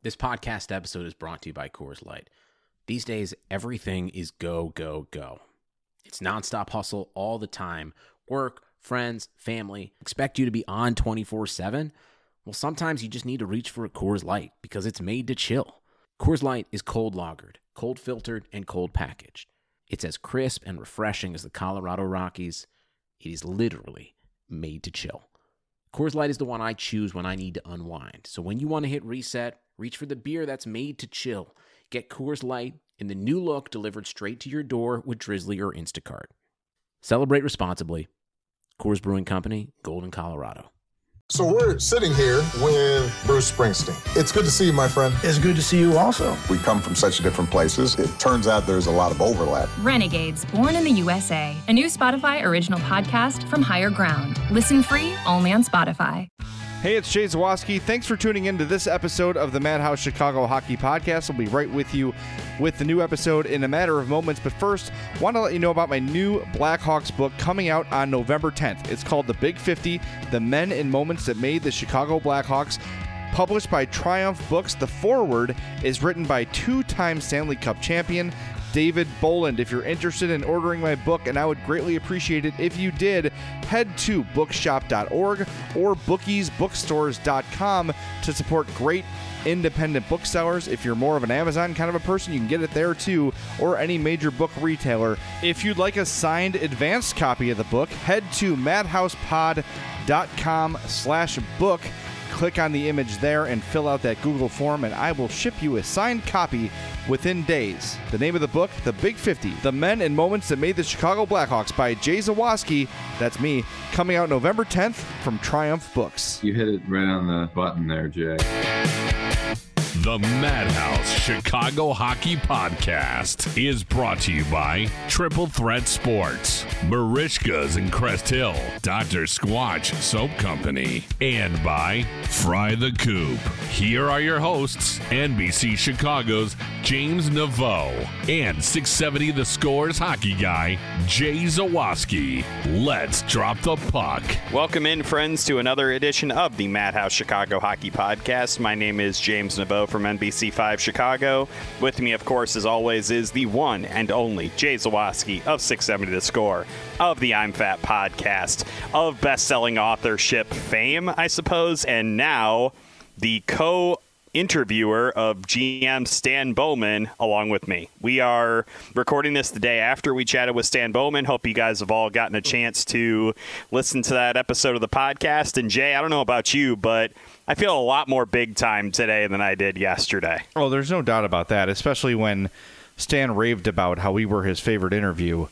This podcast episode is brought to you by Coors Light. These days, everything is go, go, go. It's nonstop hustle all the time. Work, friends, family, expect you to be on 24/7. Well, sometimes you just need to reach for a Coors Light because it's made to chill. Coors Light is cold lagered, cold filtered, and cold packaged. It's as crisp and refreshing as the Colorado Rockies. It is literally made to chill. Coors Light is the one I choose when I need to unwind. So when you want to hit reset, reach for the beer that's made to chill. Get Coors Light in the new look delivered straight to your door with Drizzly or Instacart. Celebrate responsibly. Coors Brewing Company, Golden, Colorado. So we're sitting here with Bruce Springsteen. It's good to see you, my friend. It's good to see you also. We come from such different places. It turns out there's a lot of overlap. Renegades, Born in the USA, a new Spotify original podcast from Higher Ground. Listen free only on Spotify. Hey, it's Jay Zawoski. Thanks for tuning in to this episode of the Madhouse Chicago Hockey Podcast. I'll be right with you with the new episode in a matter of moments. But first, want to let you know about my new Blackhawks book coming out on November 10th. It's called The Big 50, The Men and Moments That Made the Chicago Blackhawks. Published by Triumph Books, the foreword is written by two-time Stanley Cup champion David Boland. If you're interested in ordering my book, and I would greatly appreciate it if you did, head to bookshop.org or bookiesbookstores.com to support great independent booksellers. If you're more of an Amazon kind of a person, you can get it there too, or any major book retailer. If you'd like a signed advanced copy of the book, head to madhousepod.com/book. Click on the image there and fill out that Google form, and I will ship you a signed copy within days. The name of the book, The Big 50, The Men and Moments That Made the Chicago Blackhawks by Jay Zawoski, that's me, coming out November 10th from Triumph Books. You hit it right on the button there, Jay. The Madhouse Chicago Hockey Podcast is brought to you by Triple Threat Sports, Marishka's in Crest Hill, Dr. Squatch Soap Company, and by Fry the Coop. Here are your hosts, NBC Chicago's James Naveau and 670 The Score's hockey guy, Jay Zawoski. Let's drop the puck. Welcome in, friends, to another edition of the Madhouse Chicago Hockey Podcast. My name is James Naveau from NBC5 Chicago. With me, of course, as always, is the one and only Jay Zawoski of 670 The Score, of the I'm Fat podcast, of best-selling authorship fame, I suppose, and now the co-interviewer of GM Stan Bowman along with me. We are recording this the day after we chatted with Stan Bowman. Hope you guys have all gotten a chance to listen to that episode of the podcast. And Jay, I don't know about you, but I feel a lot more big time today than I did yesterday. Oh, there's no doubt about that, especially when Stan raved about how we were his favorite interview,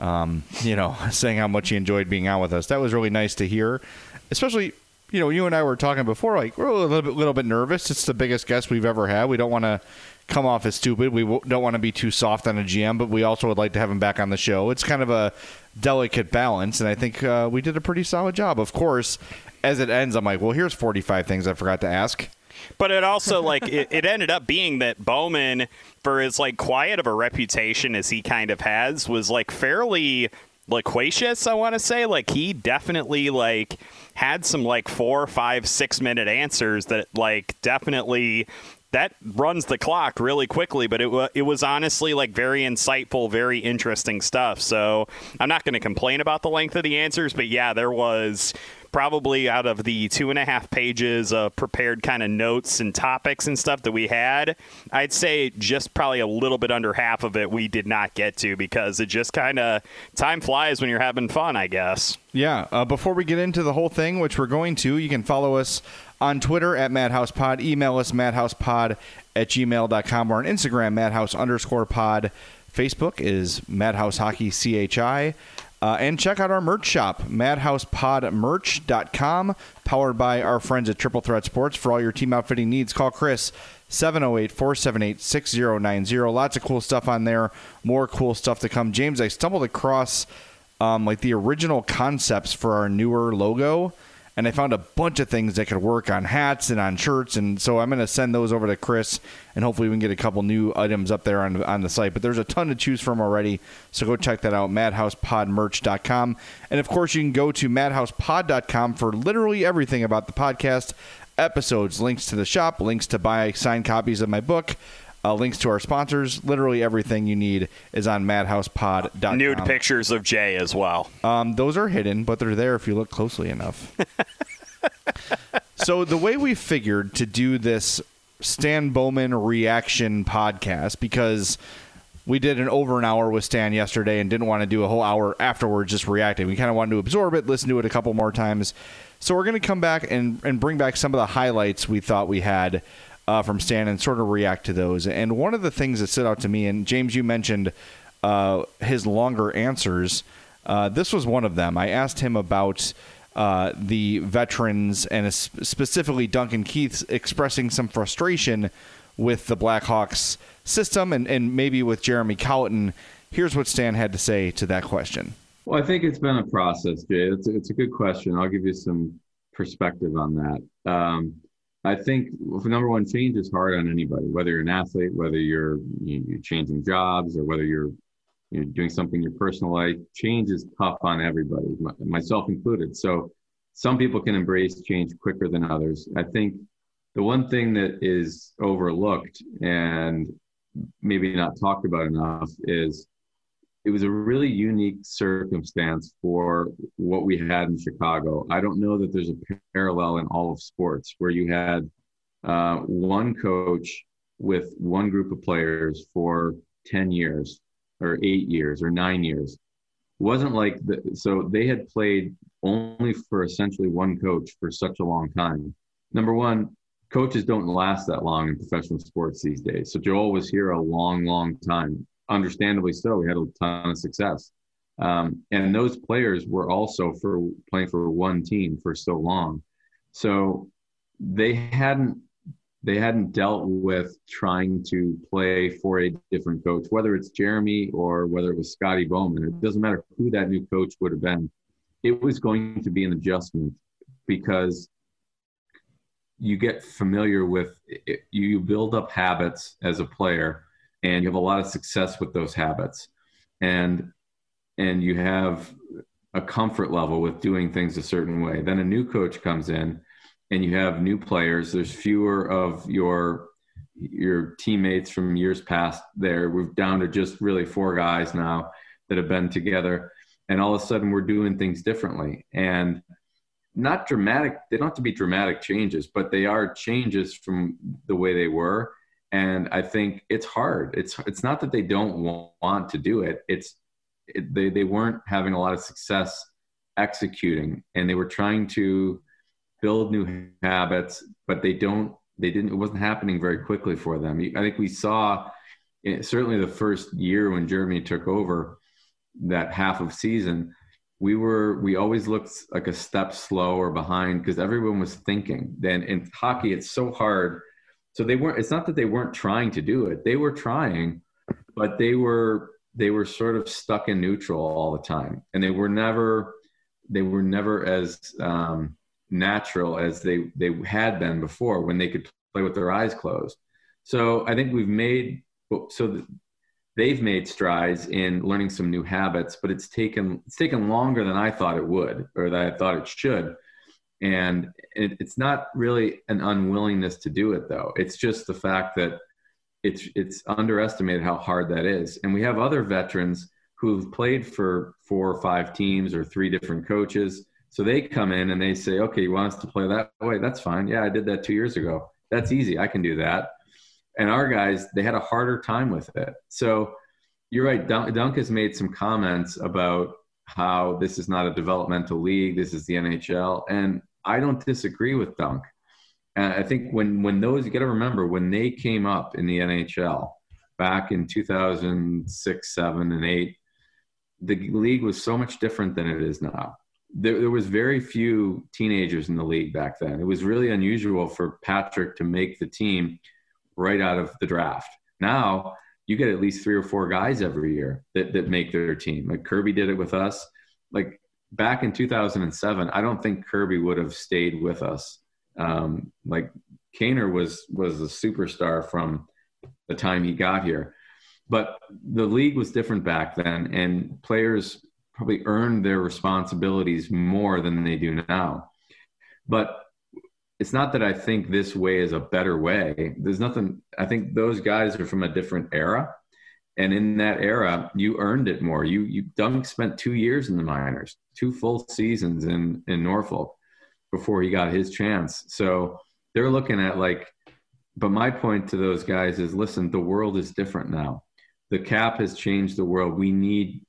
saying how much he enjoyed being on with us. That was really nice to hear, especially, you and I were talking before, like, we're a little bit nervous. It's the biggest guest we've ever had. We don't want to come off as stupid. We don't want to be too soft on a GM, but we also would like to have him back on the show. It's kind of a delicate balance, and I think we did a pretty solid job. Of course, as it ends, I'm like, well, here's 45 things I forgot to ask. But it also, it ended up being that Bowman, for as, quiet of a reputation as he kind of has, was, fairly loquacious, I want to say. He definitely, had some, 4, 5, 6 minute answers that, definitely that runs the clock really quickly, but it was honestly very insightful, very interesting stuff. So I'm not going to complain about the length of the answers, but yeah, there was probably, out of the 2.5 pages of prepared kind of notes and topics and stuff that we had, I'd say just probably a little bit under half of it we did not get to, because it just kind of, time flies when you're having fun, I guess. Yeah. Before we get into the whole thing, which we're going to, you can follow us on Twitter at MadhousePod, email us madhousepod@gmail.com, or on Instagram, madhouse_pod. Facebook is Madhouse Hockey CHI. And check out our merch shop, madhousepodmerch.com, powered by our friends at Triple Threat Sports. For all your team outfitting needs, call Chris, 708-478-6090. Lots of cool stuff on there. More cool stuff to come. James, I stumbled across the original concepts for our newer logo, and I found a bunch of things that could work on hats and on shirts, and so I'm going to send those over to Chris, and hopefully we can get a couple new items up there on the site. But there's a ton to choose from already, so go check that out, madhousepodmerch.com. And, of course, you can go to madhousepod.com for literally everything about the podcast, episodes, links to the shop, links to buy signed copies of my book, links to our sponsors. Literally everything you need is on madhousepod.com. Nude pictures of Jay as well. Those are hidden, but they're there if you look closely enough. So the way we figured to do this Stan Bowman reaction podcast, because we did over an hour with Stan yesterday and didn't want to do a whole hour afterwards just reacting. We kind of wanted to absorb it, listen to it a couple more times. So we're going to come back and bring back some of the highlights we thought we had from Stan and sort of react to those. And one of the things that stood out to me, and James, you mentioned his longer answers. This was one of them. I asked him about the veterans and specifically Duncan Keith expressing some frustration with the Blackhawks system and maybe with Jeremy Colliton. Here's what Stan had to say to that question. Well, I think it's been a process, Jay. It's a good question. I'll give you some perspective on that. I think, number one, change is hard on anybody, whether you're an athlete, whether you're changing jobs, or whether you're doing something in your personal life. Change is tough on everybody, myself included. So some people can embrace change quicker than others. I think the one thing that is overlooked and maybe not talked about enough is it was a really unique circumstance for what we had in Chicago. I don't know that there's a parallel in all of sports where you had one coach with one group of players for 10 years or 8 years or 9 years. It wasn't like so they had played only for essentially one coach for such a long time. Number one, coaches don't last that long in professional sports these days. So Joel was here a long, long time. Understandably so. He had a ton of success. And those players were also playing for one team for so long. So they hadn't dealt with trying to play for a different coach, whether it's Jeremy or whether it was Scotty Bowman. It doesn't matter who that new coach would have been. It was going to be an adjustment because you get familiar with it. You build up habits as a player, and you have a lot of success with those habits. And you have a comfort level with doing things a certain way. Then a new coach comes in and you have new players. There's fewer of your teammates from years past there. We're down to just really 4 guys now that have been together. And all of a sudden we're doing things differently. And not dramatic. They don't have to be dramatic changes, but they are changes from the way they were. And I think it's hard. It's not that they don't want to do it. They weren't having a lot of success executing, and they were trying to build new habits, but it wasn't happening very quickly for them. I think we saw certainly the first year when Jeremy took over, that half of season, we always looked like a step slow or behind because everyone was thinking. Then in hockey, it's so hard. So it's not that they weren't trying to do it. They were trying, but they were sort of stuck in neutral all the time. And they were never as natural as they had been before when they could play with their eyes closed. So I think they've made strides in learning some new habits, but it's taken longer than I thought it would, or that I thought it should. And it's not really an unwillingness to do it, though. It's just the fact that it's underestimated how hard that is. And we have other veterans who've played for 4 or 5 teams or 3 different coaches. So they come in and they say, okay, you want us to play that way? That's fine. Yeah, I did that 2 years ago. That's easy. I can do that. And our guys, they had a harder time with it. So you're right. Dunk has made some comments about how this is not a developmental league. This is the NHL. And I don't disagree with Dunk. I think when those, you got to remember, when they came up in the NHL back in 2006, 7, and 8, the league was so much different than it is now. There was very few teenagers in the league back then. It was really unusual for Patrick to make the team right out of the draft. Now you get at least 3 or 4 guys every year that make their team. Like Kirby did it with us. Like back in 2007, I don't think Kirby would have stayed with us. Like Kaner was a superstar from the time he got here, but the league was different back then, and players probably earned their responsibilities more than they do now. But it's not that I think this way is a better way. There's nothing. I think those guys are from a different era. And in that era, you earned it more. Dunk spent 2 years in the minors, 2 full seasons in Norfolk before he got his chance. So they're looking at but my point to those guys is, listen, the world is different now. The cap has changed the world. We need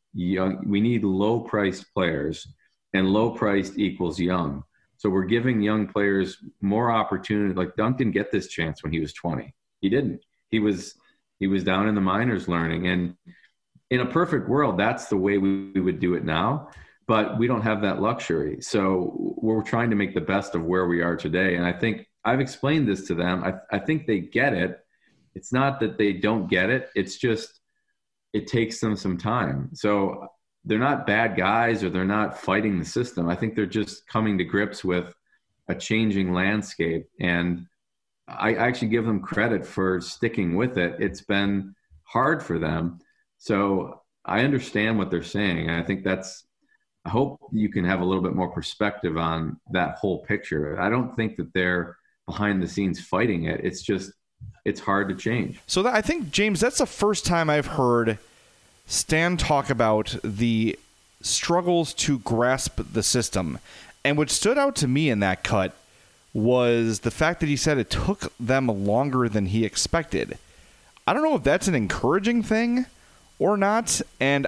low-priced players, and low-priced equals young. So we're giving young players more opportunity. Like Dunk didn't get this chance when he was 20. He didn't. He was down in the minors learning. And in a perfect world, that's the way we would do it now. But we don't have that luxury. So we're trying to make the best of where we are today. And I think I've explained this to them. I think they get it. It's not that they don't get it. It's just it takes them some time. So they're not bad guys or they're not fighting the system. I think they're just coming to grips with a changing landscape. And I actually give them credit for sticking with it. It's been hard for them. So I understand what they're saying. And I think I hope you can have a little bit more perspective on that whole picture. I don't think that they're behind the scenes fighting it. It's just, it's hard to change. So I think, James, that's the first time I've heard Stan talk about the struggles to grasp the system. And what stood out to me in that cut was the fact that he said it took them longer than he expected. I don't know if that's an encouraging thing or not. And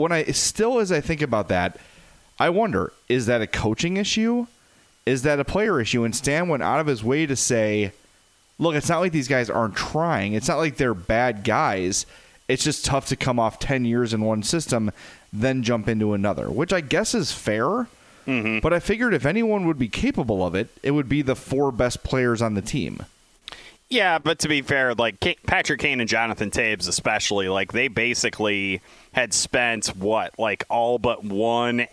as I think about that, I wonder, is that a coaching issue? Is that a player issue? And Stan went out of his way to say, look, it's not like these guys aren't trying. It's not like they're bad guys. It's just tough to come off 10 years in one system, then jump into another, which I guess is fair. Mm-hmm. But I figured if anyone would be capable of it, it would be the 4 best players on the team. Yeah, but to be fair, Patrick Kane and Jonathan Taves especially, they basically had spent all but one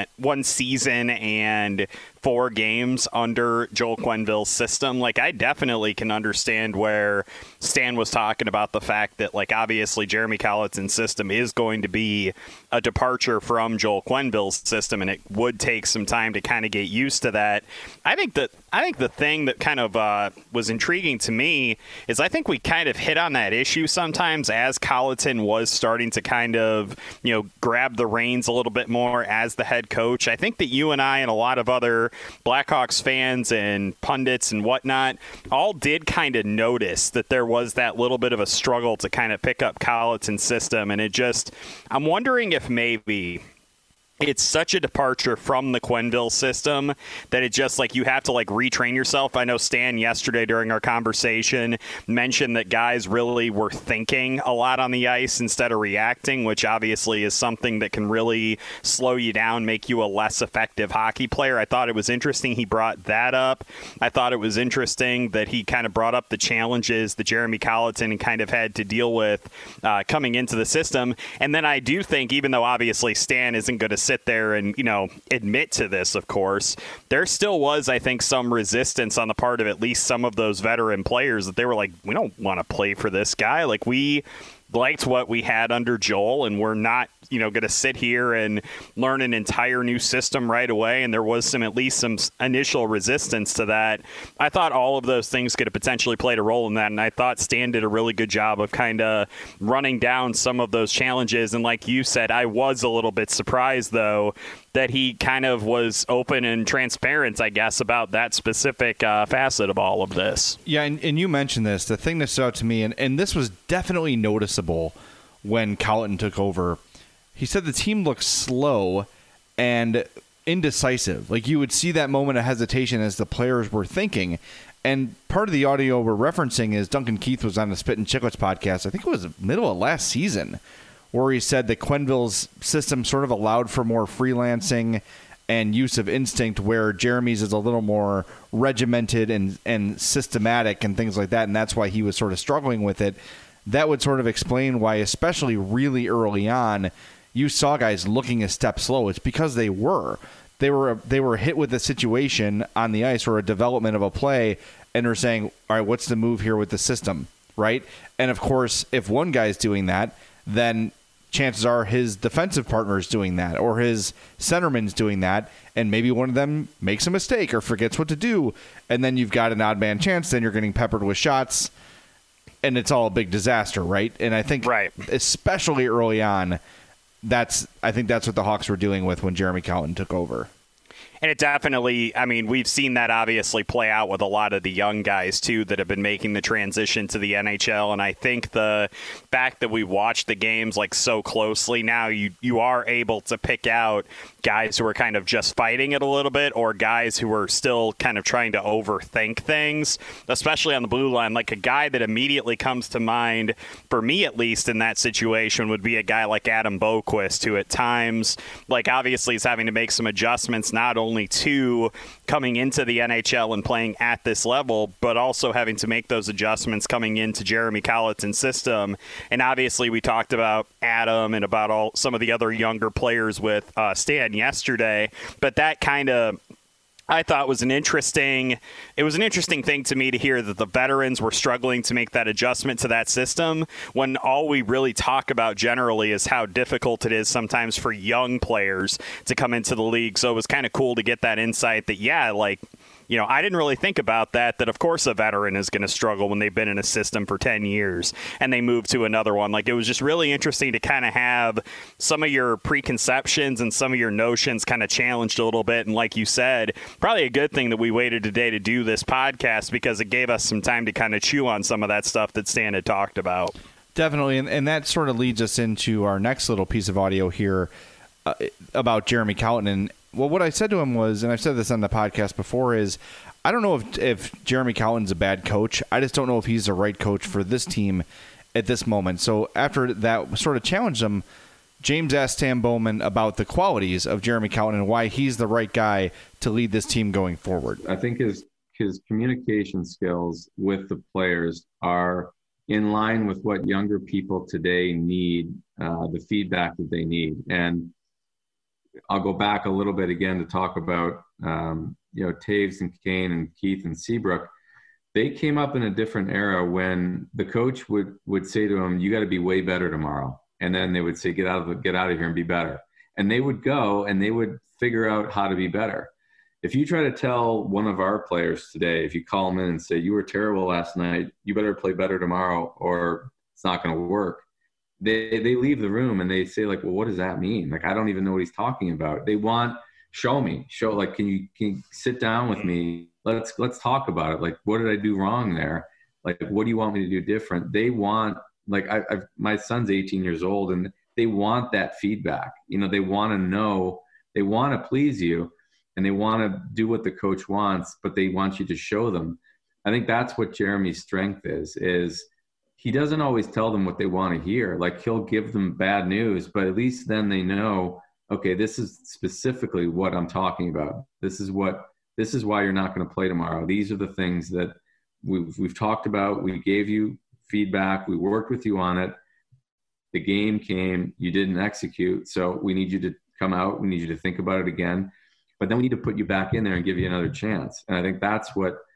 season and 4 games under Joel Quenneville's system. I definitely can understand where Stan was talking about the fact that obviously Jeremy Colleton's system is going to be a departure from Joel Quenneville's system, and it would take some time to kind of get used to that. I think the thing that kind of was intriguing to me is I think we kind of hit on that issue sometimes as Colleton was starting to kind of, grab the reins a little bit more as the head coach. I think that you and I and a lot of other Blackhawks fans and pundits and whatnot all did kind of notice that there was that little bit of a struggle to kind of pick up Colleton's system. And I'm wondering if maybe it's such a departure from the Quenneville system that it just you have to retrain yourself. I know Stan yesterday during our conversation mentioned that guys really were thinking a lot on the ice instead of reacting, which obviously is something that can really slow you down, make you a less effective hockey player. I thought it was interesting he brought that up. I thought it was interesting that he kind of brought up the challenges that Jeremy Colleton kind of had to deal with coming into the system. And then I do think, even though obviously Stan isn't going to sit there and admit to this, of course, there still was, I think, some resistance on the part of at least some of those veteran players that they were we don't want to play for this guy. We liked what we had under Joel, and we're not going to sit here and learn an entire new system right away. And there was at least some initial resistance to that. I thought all of those things could have potentially played a role in that. And I thought Stan did a really good job of kind of running down some of those challenges. And like you said, I was a little bit surprised, though, that he kind of was open and transparent, I guess, about that specific facet of all of this. Yeah, and you mentioned this. The thing that stood out to me, and this was definitely noticeable when Colleton took over, he said the team looked slow and indecisive. You would see that moment of hesitation as the players were thinking. And part of the audio we're referencing is Duncan Keith was on the Spit and Chicklets podcast, I think it was the middle of last season, where he said that Quenneville's system sort of allowed for more freelancing and use of instinct, where Jeremy's is a little more regimented and systematic and things like that, and that's why he was sort of struggling with it. That would sort of explain why, especially really early on, you saw guys looking a step slow. It's because they were hit with a situation on the ice or a development of a play, and are saying, all right, what's the move here with the system, right? And of course, if one guy's doing that, then chances are his defensive partner is doing that, or his centerman's doing that, and maybe one of them makes a mistake or forgets what to do, and then you've got an odd man chance, then you're getting peppered with shots, and it's all a big disaster, right? And I think especially early on, I think that's what the Hawks were dealing with when Jeremy Colliton took over. And it definitely, I mean, we've seen that obviously play out with a lot of the young guys, too, that have been making the transition to the NHL. And I think the fact that we watch the games like so closely now, you are able to pick out guys who are kind of just fighting it a little bit, or guys who are still kind of trying to overthink things, especially on the blue line. Like a guy that immediately comes to mind, for me at least, in that situation would be a guy like Adam Boqvist, who at times, like obviously is having to make some adjustments, not only to coming into the NHL and playing at this level, but also having to make those adjustments coming into Jeremy Colliton's system. And obviously we talked about Adam and about some of the other younger players with Stan yesterday, but that kind of, I thought was an interesting thing to me to hear that the veterans were struggling to make that adjustment to that system, when all we really talk about generally is how difficult it is sometimes for young players to come into the league. So it was kind of cool to get that insight that, I didn't really think about that of course a veteran is going to struggle when they've been in a system for 10 years and they move to another one. Like, it was just really interesting to kind of have some of your preconceptions and some of your notions kind of challenged a little bit. And like you said, probably a good thing that we waited today to do this podcast, because it gave us some time to kind of chew on some of that stuff that Stan had talked about. Definitely. And that sort of leads us into our next little piece of audio here about Jeremy Colliton. Well, what I said to him was, and I've said this on the podcast before, is I don't know if Jeremy Colliton's a bad coach. I just don't know if he's the right coach for this team at this moment. So after that sort of challenged him, James asked Stan Bowman about the qualities of Jeremy Colliton and why he's the right guy to lead this team going forward. I think his communication skills with the players are in line with what younger people today need, the feedback that they need. And I'll go back a little bit again to talk about, Taves and Kane and Keith and Seabrook. They came up in a different era when the coach would say to them, "You got to be way better tomorrow." And then they would say, get out of here and be better. And they would go and they would figure out how to be better. If you try to tell one of our players today, if you call them in and say, "You were terrible last night, you better play better tomorrow or it's not going to work," they leave the room and they say, like, "Well, what does that mean? Like, I don't even know what he's talking about." They want, show, like, can you sit down with me? Let's talk about it. Like, what did I do wrong there? Like, what do you want me to do different? They want, like, my son's 18 years old and they want that feedback. They want to know, they want to please you and they want to do what the coach wants, but they want you to show them. I think that's what Jeremy's strength is he doesn't always tell them what they want to hear. Like, he'll give them bad news, but at least then they know, okay, this is specifically what I'm talking about. This is why you're not going to play tomorrow. These are the things that we've talked about. We gave you feedback. We worked with you on it. The game came, you didn't execute. So we need you to come out. We need you to think about it again, but then we need to put you back in there and give you another chance. And I think that's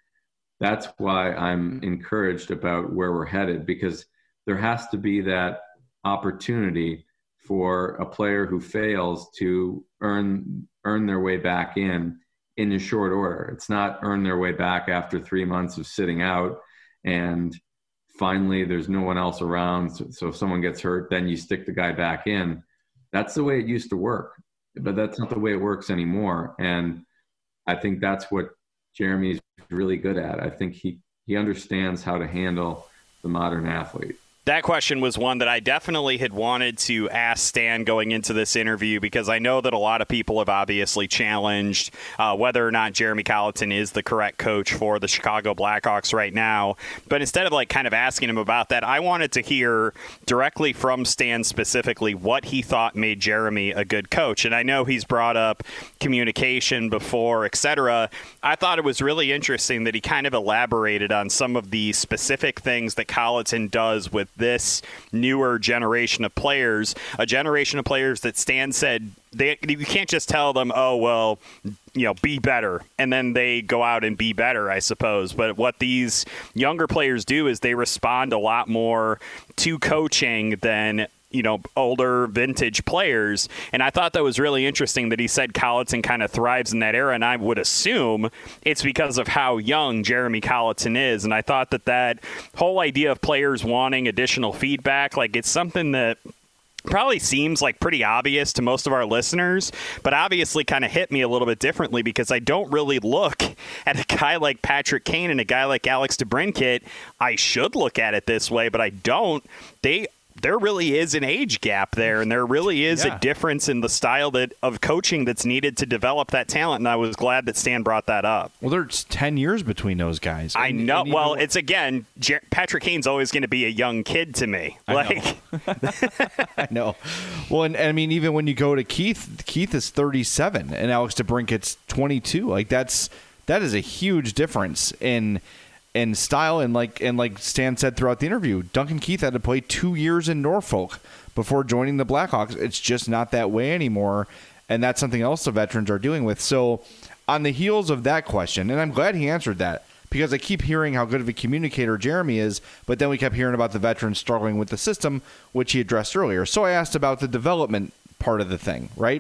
why I'm encouraged about where we're headed, because there has to be that opportunity for a player who fails to earn their way back in a short order. It's not earn their way back after 3 months of sitting out and finally there's no one else around. So if someone gets hurt, then you stick the guy back in. That's the way it used to work, but that's not the way it works anymore. And I think that's what Jeremy's really good at. I think he understands how to handle the modern athlete. That question was one that I definitely had wanted to ask Stan going into this interview, because I know that a lot of people have obviously challenged whether or not Jeremy Colliton is the correct coach for the Chicago Blackhawks right now. But instead of like kind of asking him about that, I wanted to hear directly from Stan specifically what he thought made Jeremy a good coach. And I know he's brought up communication before, etc. I thought it was really interesting that he kind of elaborated on some of the specific things that Colliton does with this newer generation of players, a generation of players that Stan said you can't just tell them, oh, well, be better, and then they go out and be better, I suppose. But what these younger players do is they respond a lot more to coaching than older vintage players. And I thought that was really interesting that he said Colliton kind of thrives in that era. And I would assume it's because of how young Jeremy Colliton is. And I thought that whole idea of players wanting additional feedback, like it's something that probably seems like pretty obvious to most of our listeners, but obviously kind of hit me a little bit differently because I don't really look at a guy like Patrick Kane and a guy like Alex DeBrincat. I should look at it this way, but I don't. There really is an age gap there, and there really is a difference in the style of coaching that's needed to develop that talent, and I was glad that Stan brought that up. Well, there's 10 years between those guys. I know. Well, it's, again, Patrick Kane's always going to be a young kid to me. I know. Well, and I mean, even when you go to Keith is 37, and Alex DeBrincat's 22. Like, that is a huge difference in style, and like Stan said throughout the interview, Duncan Keith had to play 2 years in Norfolk before joining the Blackhawks. It's just not that way anymore, and that's something else the veterans are dealing with. So on the heels of that question, and I'm glad he answered that, because I keep hearing how good of a communicator Jeremy is, but then we kept hearing about the veterans struggling with the system, which he addressed earlier. So I asked about the development part of the thing, right?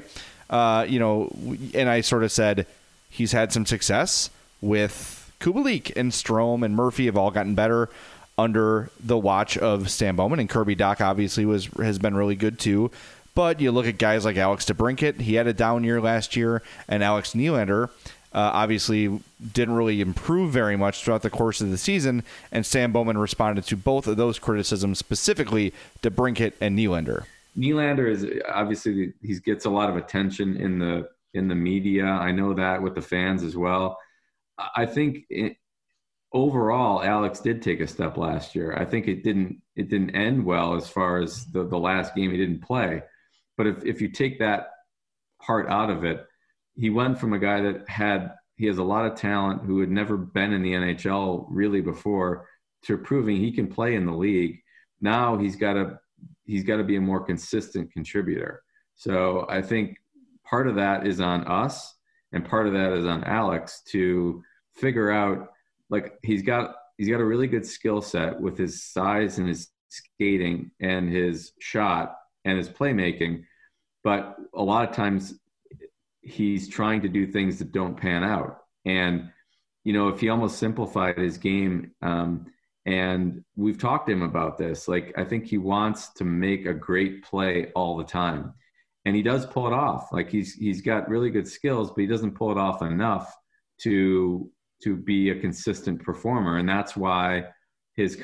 And I sort of said he's had some success with Kubalik and Strome and Murphy have all gotten better under the watch of Stan Bowman, and Kirby Dach obviously has been really good too. But you look at guys like Alex DeBrincat, he had a down year last year, and Alex Nylander obviously didn't really improve very much throughout the course of the season, and Stan Bowman responded to both of those criticisms, specifically DeBrincat and Nylander. Nylander is obviously, he gets a lot of attention in the media. I know that with the fans as well. I think overall, Alex did take a step last year. I think it didn't end well as far as the last game he didn't play. But if you take that part out of it, he went from a guy that he has a lot of talent, who had never been in the NHL really before, to proving he can play in the league. Now he's got to be a more consistent contributor. So I think part of that is on us, and part of that is on Alex to figure out, like, he's got a really good skill set with his size and his skating and his shot and his playmaking. But a lot of times he's trying to do things that don't pan out. And, if he almost simplified his game, and we've talked to him about this, like, I think he wants to make a great play all the time. And he does pull it off. Like, he's got really good skills, but he doesn't pull it off enough to be a consistent performer. And that's why his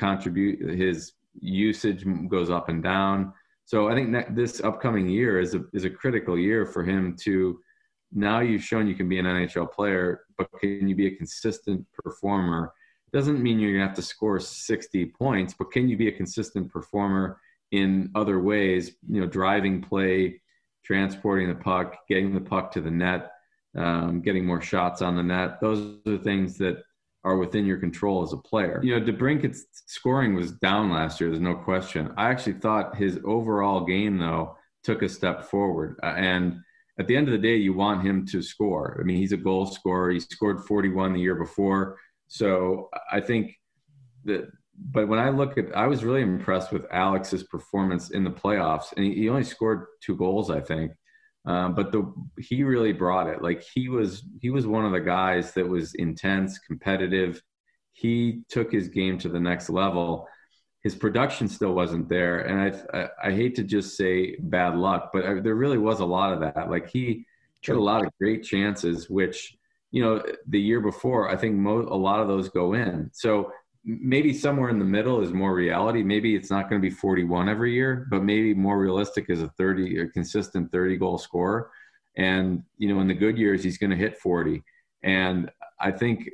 usage goes up and down. So I think this upcoming year is a critical year for him to, now you've shown you can be an NHL player, but can you be a consistent performer? Doesn't mean you're gonna have to score 60 points, but can you be a consistent performer in other ways, driving play, transporting the puck, getting the puck to the net, getting more shots on the net. Those are the things that are within your control as a player. DeBrincat's scoring was down last year, there's no question. I actually thought his overall game, though, took a step forward. And at the end of the day, you want him to score. I mean, he's a goal scorer. He scored 41 the year before. So I think that, but when I was really impressed with Alex's performance in the playoffs, and he only scored 2 goals, I think. But he really brought it. Like, he was one of the guys that was intense, competitive. He took his game to the next level. His production still wasn't there, and I hate to just say bad luck, but there really was a lot of that. Like, he had a lot of great chances, which, the year before, I think a lot of those go in. So maybe somewhere in the middle is more reality. Maybe it's not going to be 41 every year, but maybe more realistic is a consistent 30 goal scorer. And, in the good years, he's going to hit 40. And I think,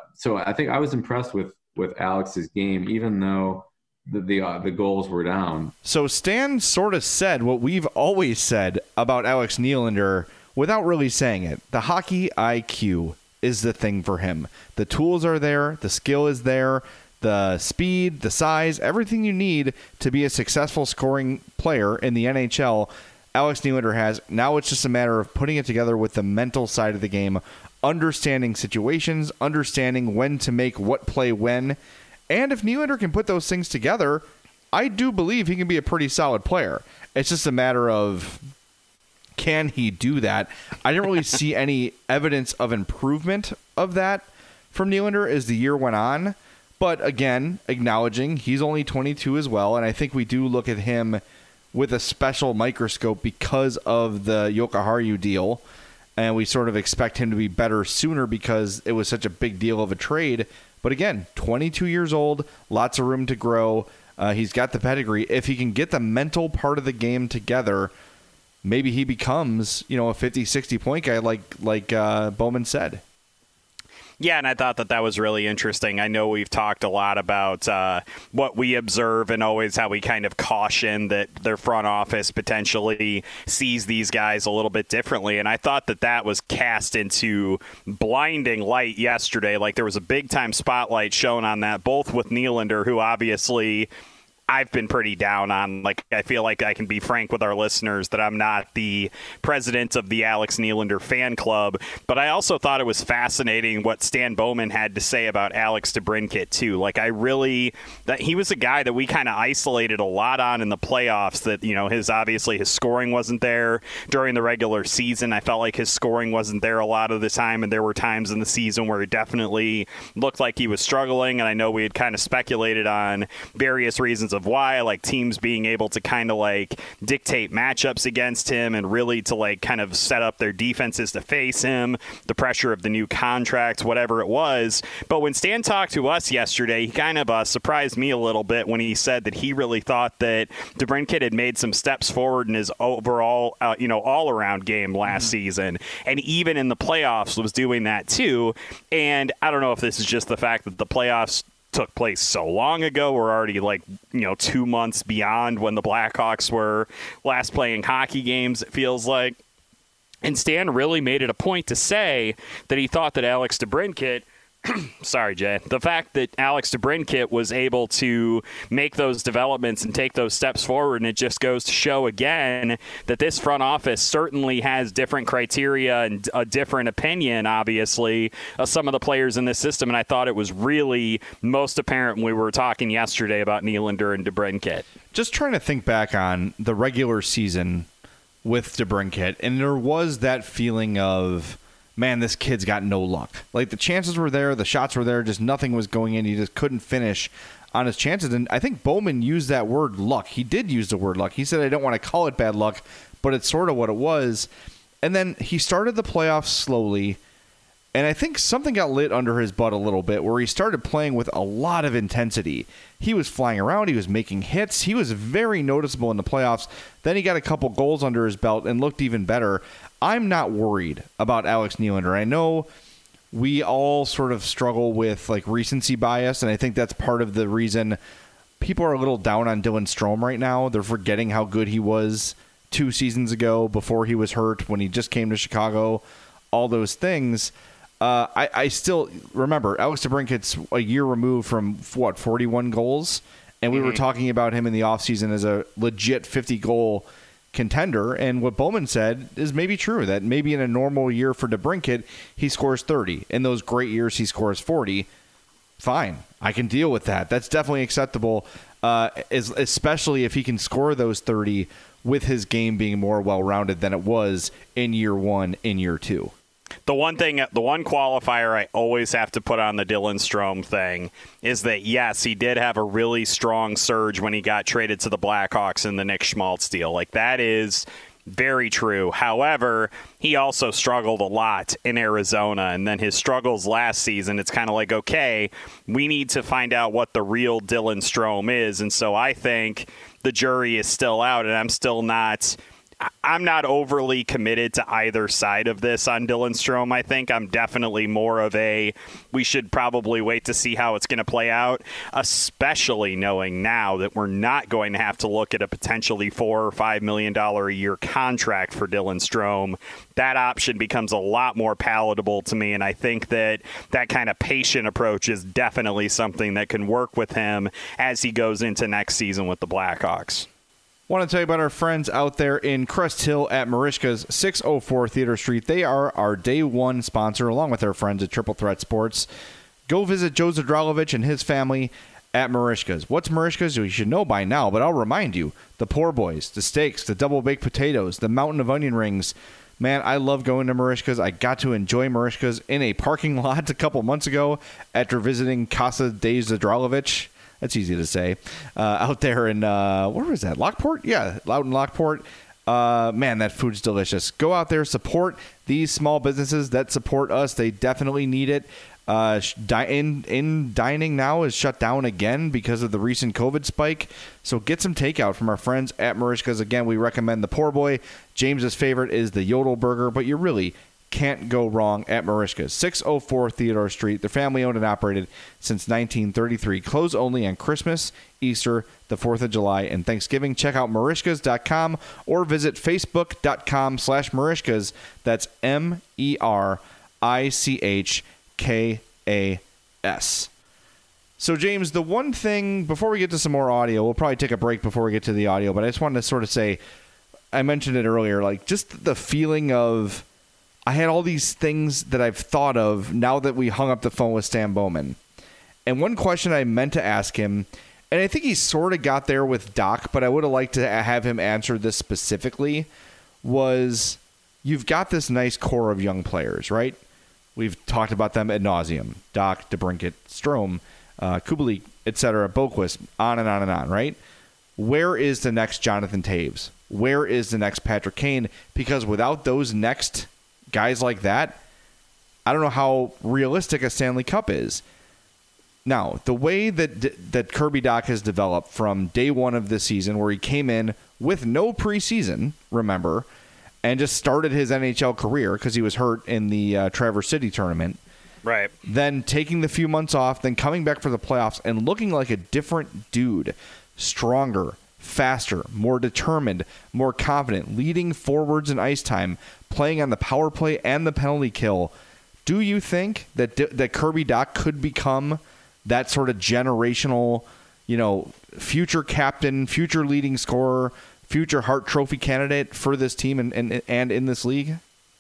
I was impressed with Alex's game, even though the goals were down. So Stan sort of said what we've always said about Alex Nylander without really saying it. The hockey IQ is the thing for him. The tools are there. The skill is there. The speed, the size, everything you need to be a successful scoring player in the NHL, Alex Nylander has. Now it's just a matter of putting it together with the mental side of the game, understanding situations, understanding when to make what play when. And if Nylander can put those things together, I do believe he can be a pretty solid player. It's just a matter of, can he do that? I didn't really see any evidence of improvement of that from Nylander as the year went on. But again, acknowledging he's only 22 as well, and I think we do look at him with a special microscope because of the Jokiharju deal, and we sort of expect him to be better sooner because it was such a big deal of a trade. But again, 22 years old, lots of room to grow. He's got the pedigree. If he can get the mental part of the game together, maybe he becomes, a 50, 60 point guy like Bowman said. Yeah, and I thought that was really interesting. I know we've talked a lot about what we observe and always how we kind of caution that their front office potentially sees these guys a little bit differently. And I thought that was cast into blinding light yesterday. Like, there was a big-time spotlight shown on that, both with Nylander, who obviously I've been pretty down on. Like, I feel like I can be frank with our listeners that I'm not the president of the Alex Nylander fan club, but I also thought it was fascinating what Stan Bowman had to say about Alex DeBrincat too. Like, that he was a guy that we kind of isolated a lot on in the playoffs, that, his scoring wasn't there during the regular season. I felt like his scoring wasn't there a lot of the time, and there were times in the season where it definitely looked like he was struggling, and I know we had kind of speculated on various reasons of why, like teams being able to kind of like dictate matchups against him and really to like kind of set up their defenses to face him, the pressure of the new contract, whatever it was. But when Stan talked to us yesterday, he kind of surprised me a little bit when he said that he really thought that DeBrincat had made some steps forward in his overall, all-around game last season, and even in the playoffs was doing that too. And I don't know if this is just the fact that the playoffs took place so long ago. We're already 2 months beyond when the Blackhawks were last playing hockey games, it feels like. And Stan really made it a point to say that he thought that Alex DeBrincat sorry, Jay. The fact that Alex DeBrincat was able to make those developments and take those steps forward, and it just goes to show again that this front office certainly has different criteria and a different opinion, obviously, of some of the players in this system. And I thought it was really most apparent when we were talking yesterday about Nylander and DeBrincat. Just trying to think back on the regular season with DeBrincat, and there was that feeling of, man, this kid's got no luck. Like, the chances were there, the shots were there, just nothing was going in. He just couldn't finish on his chances. And I think Bowman used that word luck. He did use the word luck. He said, I don't want to call it bad luck, but it's sort of what it was. And then he started the playoffs slowly, and I think something got lit under his butt a little bit where he started playing with a lot of intensity. He was flying around. He was making hits. He was very noticeable in the playoffs. Then he got a couple goals under his belt and looked even better. I'm not worried about Alex Nylander. I know we all sort of struggle with recency bias, and I think that's part of the reason people are a little down on Dylan Strome right now. They're forgetting how good he was 2 seasons ago before he was hurt, when he just came to Chicago, all those things. I still remember Alex DeBrincat's a year removed from 41 goals, and we were talking about him in the offseason as a legit 50-goal contender. And what Bowman said is maybe true, that maybe in a normal year for DeBrincat, he scores 30. In those great years, he scores 40. Fine, I can deal with that. That's definitely acceptable, especially if he can score those 30 with his game being more well-rounded than it was in year 1, in year 2. The one qualifier I always have to put on the Dylan Strome thing is that, yes, he did have a really strong surge when he got traded to the Blackhawks in the Nick Schmaltz deal. That is very true. However, he also struggled a lot in Arizona, and then his struggles last season, it's kind of like, okay, we need to find out what the real Dylan Strome is. And so I think the jury is still out, and I'm not overly committed to either side of this on Dylan Strome. I think I'm definitely more of we should probably wait to see how it's going to play out, especially knowing now that we're not going to have to look at a potentially $4 or $5 million a year contract for Dylan Strome. That option becomes a lot more palatable to me, and I think that kind of patient approach is definitely something that can work with him as he goes into next season with the Blackhawks. Want to tell you about our friends out there in Crest Hill at Marishka's 604 Theater Street. They are our day one sponsor, along with our friends at Triple Threat Sports. Go visit Joe Zadralovich and his family at Marishka's. What's Marishka's? You should know by now, but I'll remind you. The poor boys, the steaks, the double baked potatoes, the mountain of onion rings. Man, I love going to Marishka's. I got to enjoy Marishka's in a parking lot a couple months ago after visiting Casa de Zadralovich. That's easy to say. Out there in, where was that? Lockport? Yeah, out in Lockport. Man, that food's delicious. Go out there, support these small businesses that support us. They definitely need it. Dining now is shut down again because of the recent COVID spike. So get some takeout from our friends at Marishka's. Again, we recommend the poor boy. James's favorite is the Yodel Burger, but you really can't go wrong at Marishka's. 604 Theodore Street. They're family owned and operated since 1933. Close only on Christmas, Easter, the 4th of July, and Thanksgiving. Check out Marishkas.com or visit Facebook.com/Marishkas. That's MERICHKAS. So, James, the one thing, before we get to some more audio, we'll probably take a break before we get to the audio, but I just wanted to sort of say, I mentioned it earlier, like just the feeling of, I had all these things that I've thought of now that we hung up the phone with Stan Bowman. And one question I meant to ask him, and I think he sort of got there with Doc, but I would have liked to have him answer this specifically, was you've got this nice core of young players, right? We've talked about them ad nauseum. Doc, DeBrincat, Strome, Kubalik, etc., Boquist, on and on and on, right? Where is the next Jonathan Toews? Where is the next Patrick Kane? Because without those next guys like that, I don't know how realistic a Stanley Cup is. Now, the way that Kirby Dach has developed from day one of this season, where he came in with no preseason, remember, and just started his NHL career because he was hurt in the Traverse City tournament. Right. Then taking the few months off, then coming back for the playoffs and looking like a different dude, stronger, faster, more determined, more confident, leading forwards in ice time, playing on the power play and the penalty kill. Do you think that Kirby Dach could become that sort of generational, future captain, future leading scorer, future Hart Trophy candidate for this team and in this league?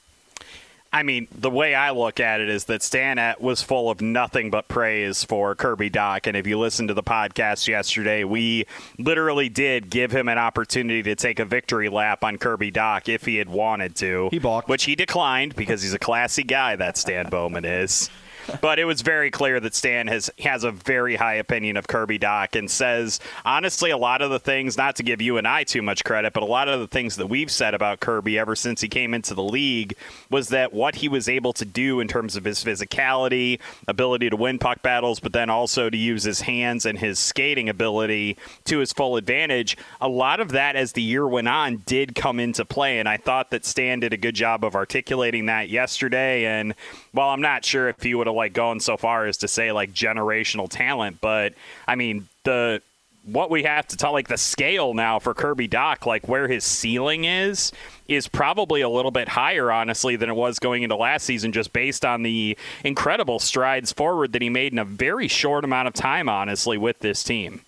I mean, the way I look at it is that Stan was full of nothing but praise for Kirby Dach. And if you listened to the podcast yesterday, we literally did give him an opportunity to take a victory lap on Kirby Dach if he had wanted to. He balked. Which he declined because he's a classy guy, that Stan Bowman is. But it was very clear that Stan has a very high opinion of Kirby Dach and says, honestly, a lot of the things, not to give you and I too much credit, but a lot of the things that we've said about Kirby ever since he came into the league was that what he was able to do in terms of his physicality, ability to win puck battles, but then also to use his hands and his skating ability to his full advantage, a lot of that as the year went on did come into play. And I thought that Stan did a good job of articulating that yesterday. And while I'm not sure if he would have going so far as to say generational talent, but I mean what we have to tell the scale now for Kirby Dach, where his ceiling is probably a little bit higher, honestly, than it was going into last season, just based on the incredible strides forward that he made in a very short amount of time, honestly, with this team.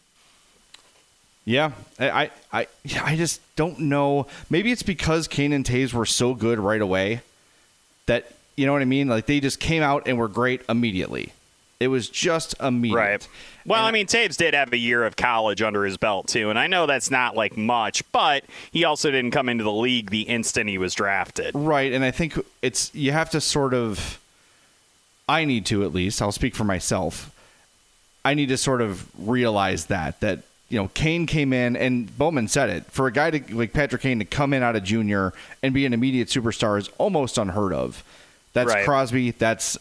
Yeah, I just don't know. Maybe it's because Kane and Toews were so good right away that, you know what I mean? They just came out and were great immediately. It was just immediate. Right. Well, I mean, Toews did have a year of college under his belt, too. And I know that's not much, but he also didn't come into the league the instant he was drafted. Right. And I think you have to sort of, I need to at least, I'll speak for myself. I need to sort of realize that Kane came in, and Bowman said it, for a guy like Patrick Kane to come in out of junior and be an immediate superstar is almost unheard of. That's right. Crosby. That's,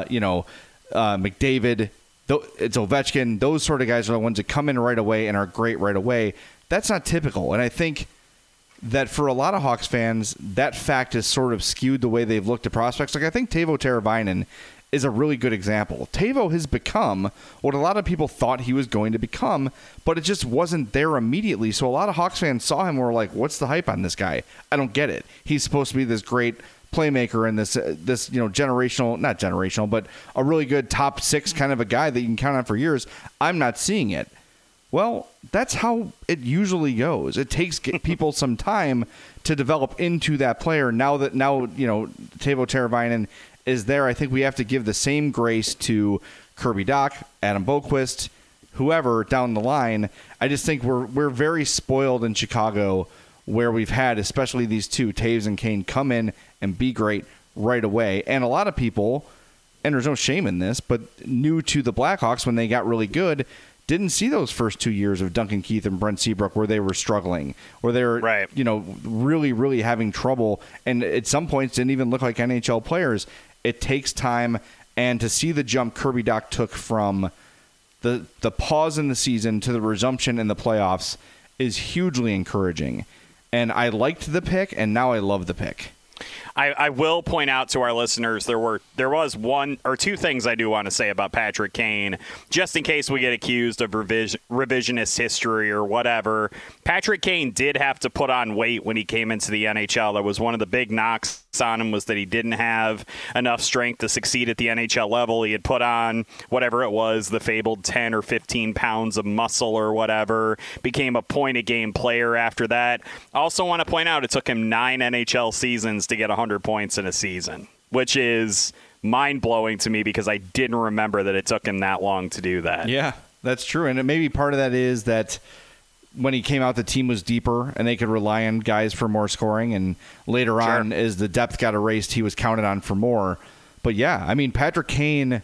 McDavid. It's Ovechkin. Those sort of guys are the ones that come in right away and are great right away. That's not typical. And I think that for a lot of Hawks fans, that fact has sort of skewed the way they've looked at prospects. I think Teuvo Teravainen is a really good example. Teuvo has become what a lot of people thought he was going to become, but it just wasn't there immediately. So a lot of Hawks fans saw him and were like, what's the hype on this guy? I don't get it. He's supposed to be this great playmaker and this not generational, but a really good top six kind of a guy that you can count on for years. I'm not seeing it. Well, that's how it usually goes. It takes people some time to develop into that player. Now Teuvo Teravainen is there, I think we have to give the same grace to Kirby Dach, Adam Boquist, whoever down the line. I just think we're very spoiled in Chicago, where we've had, especially these two, Taves and Kane, come in and be great right away. And a lot of people, and there's no shame in this, but new to the Blackhawks when they got really good, didn't see those first 2 years of Duncan Keith and Brent Seabrook where they were struggling, where they were, really, really having trouble, and at some points didn't even look like NHL players. It takes time, and to see the jump Kirby Dach took from the pause in the season to the resumption in the playoffs is hugely encouraging. And I liked the pick, and now I love the pick. I will point out to our listeners there was one or two things I do want to say about Patrick Kane, just in case we get accused of revisionist history or whatever. Patrick Kane did have to put on weight when he came into the NHL. That was one of the big knocks on him, was that he didn't have enough strength to succeed at the NHL level. He had put on whatever it was, the fabled 10 or 15 pounds of muscle or whatever, became a point-a-game player after that. Also want to point out it took him 9 NHL seasons to get 100 points in a season, which is mind-blowing to me because I didn't remember that it took him that long to do that. Yeah, that's true. And maybe part of that is that when he came out, the team was deeper and they could rely on guys for more scoring. And later on, as the depth got erased, he was counted on for more. But yeah, I mean, Patrick Kane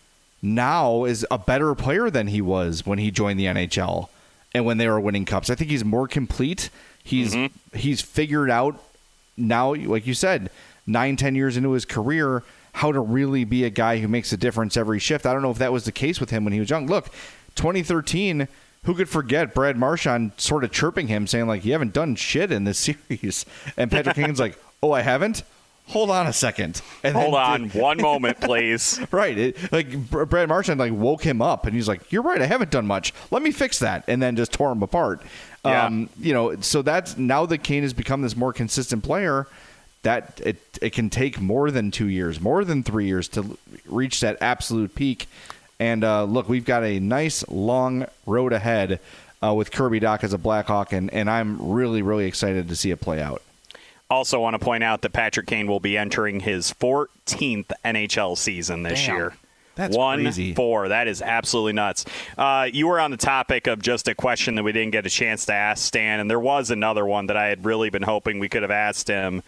now is a better player than he was when he joined the NHL and when they were winning cups. I think he's more complete. He's figured out now, like you said, 9-10 years into his career, how to really be a guy who makes a difference every shift. I don't know if that was the case with him when he was young. Look, 2013, who could forget Brad Marchand sort of chirping him, saying, like, you haven't done shit in this series. And Patrick Kane's like, oh, I haven't? Hold on a second. And Hold on one moment, please. Right. Brad Marchand woke him up, and he's like, you're right, I haven't done much. Let me fix that. And then just tore him apart. Yeah. So that's now that Kane has become this more consistent player, that it can take more than 2 years, more than 3 years to reach that absolute peak. And look, we've got a nice long road ahead with Kirby Dach as a Blackhawk, and I'm really, really excited to see it play out. Also want to point out that Patrick Kane will be entering his 14th NHL season this year. That's crazy. 1-4. That is absolutely nuts. You were on the topic of just a question that we didn't get a chance to ask Stan, and there was another one that I had really been hoping we could have asked him.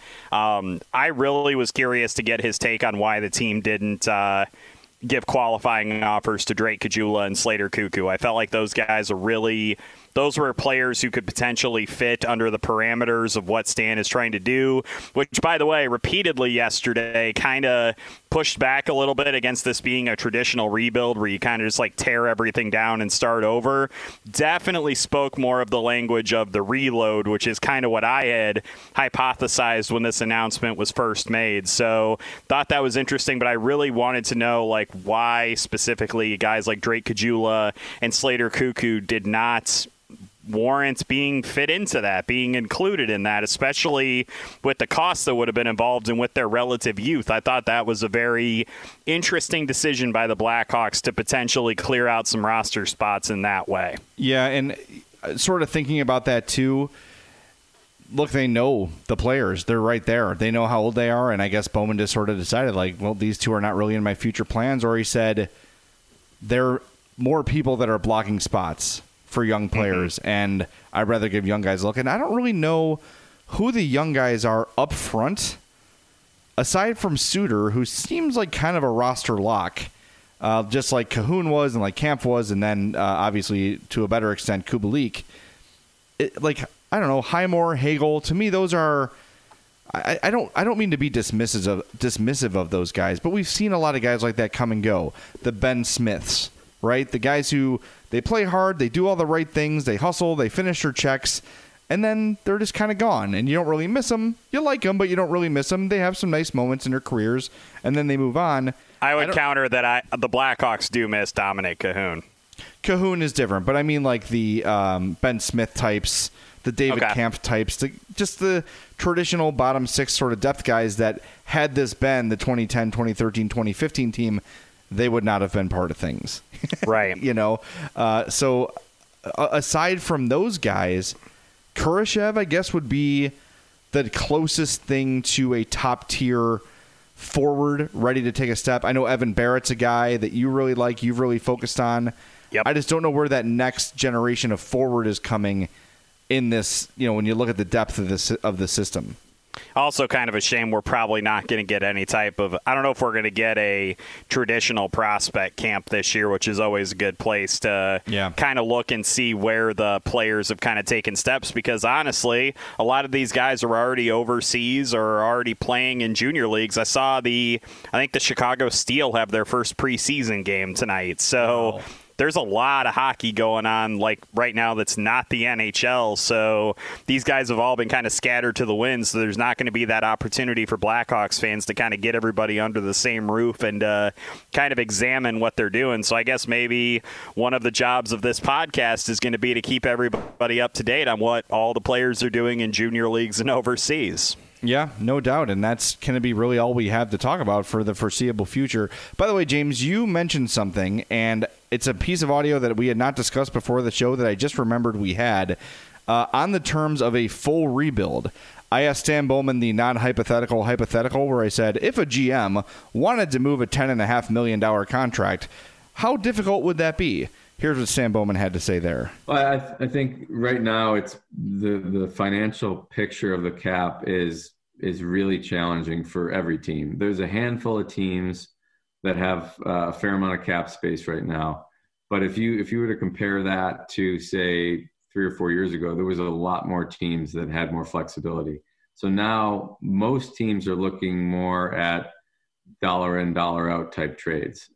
I really was curious to get his take on why the team didn't give qualifying offers to Drake Caggiula and Slater Koekkoek. I felt like those guys are those were players who could potentially fit under the parameters of what Stan is trying to do, which, by the way, repeatedly yesterday kind of pushed back a little bit against this being a traditional rebuild where you kind of just tear everything down and start over. Definitely spoke more of the language of the reload, which is kind of what I had hypothesized when this announcement was first made. So thought that was interesting, but I really wanted to know why specifically guys like Drake Caggiula and Slater Koekkoek did not warrant being fit into that, being included in that, especially with the costs that would have been involved and with their relative youth. I thought that was a very interesting decision by the Blackhawks to potentially clear out some roster spots in that way. Yeah, and sort of thinking about that too, look, they know the players. They're right there. They know how old they are, and I guess Bowman just sort of decided, well, these two are not really in my future plans, or he said there are more people that are blocking spots for young players, and I'd rather give young guys a look. And I don't really know who the young guys are up front, aside from Suter, who seems like kind of a roster lock, just like Cahoon was and like Kampf was, and then obviously to a better extent Kubalik. I don't know, Highmore, Hagel. To me, those are. I don't mean to be dismissive of those guys, but we've seen a lot of guys like that come and go. The Ben Smiths, right? The guys who they play hard, they do all the right things, they hustle, they finish their checks, and then they're just kind of gone. And you don't really miss them. You like them, but you don't really miss them. They have some nice moments in their careers, and then they move on. I would counter that the Blackhawks do miss Dominic Cahoon. Cahoon is different, but I mean the Ben Smith types, the David Kampf types, just the traditional bottom six sort of depth guys that had this been the 2010, 2013, 2015 team, they would not have been part of things. Right. So aside from those guys, Kurashev, I guess, would be the closest thing to a top tier forward ready to take a step. I know Evan Barrett's a guy that you really like, you've really focused on. Yep. I just don't know where that next generation of forward is coming in this, when you look at the depth of the system. Also kind of a shame we're probably not going to get any type of, I don't know if we're going to get a traditional prospect camp this year, which is always a good place to kind of look and see where the players have kind of taken steps, because honestly, a lot of these guys are already overseas or are already playing in junior leagues. I think the Chicago Steel have their first preseason game tonight. So there's a lot of hockey going on like right now that's not the NHL. So these guys have all been kind of scattered to the wind. So there's not going to be that opportunity for Blackhawks fans to kind of get everybody under the same roof and kind of examine what they're doing. So I guess maybe one of the jobs of this podcast is going to be to keep everybody up to date on what all the players are doing in junior leagues and overseas. Yeah, no doubt. And that's going to be really all we have to talk about for the foreseeable future. By the way, James, you mentioned something, and it's a piece of audio that we had not discussed before the show that I just remembered we had. On the terms of a full rebuild, I asked Stan Bowman the non-hypothetical hypothetical where I said, if a GM wanted to move a $10.5 million contract, how difficult would that be? Here's what Stan Bowman had to say there. Well, I think right now it's the financial picture of the cap is really challenging for every team. There's a handful of teams that have a fair amount of cap space right now. But if you were to compare that to, say, 3 or 4 years ago, there was a lot more teams that had more flexibility. So now most teams are looking more at dollar in, dollar out type trades.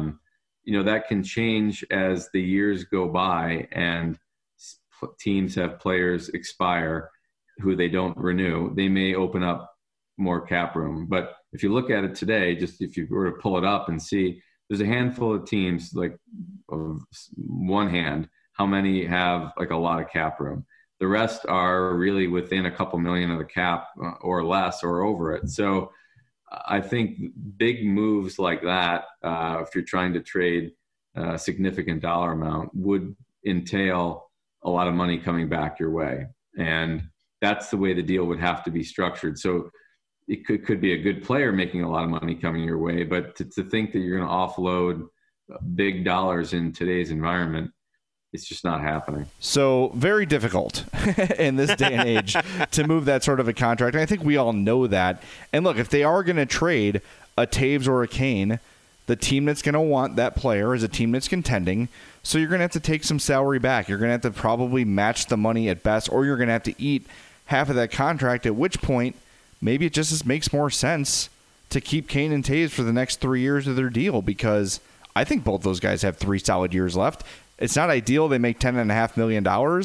That can change as the years go by and teams have players expire who they don't renew. They may open up more cap room. But if you look at it today, just if you were to pull it up and see, there's a handful of teams, like of one hand, how many have like a lot of cap room. The rest are really within a couple million of the cap or less or over it. So I think big moves like that, if you're trying to trade a significant dollar amount, would entail a lot of money coming back your way. And that's the way the deal would have to be structured. So it could be a good player making a lot of money coming your way, but to think that you're going to offload big dollars in today's environment, it's just not happening. So very difficult in this day and age to move that sort of a contract. And I think we all know that. And look, if they are going to trade a Taves or a Kane, the team that's going to want that player is a team that's contending. So you're going to have to take some salary back. You're going to have to probably match the money at best, or you're going to have to eat half of that contract, at which point maybe it just makes more sense to keep Kane and Taves for the next 3 years of their deal, because I think both those guys have 3 solid years left. It's not ideal they make $10.5 million,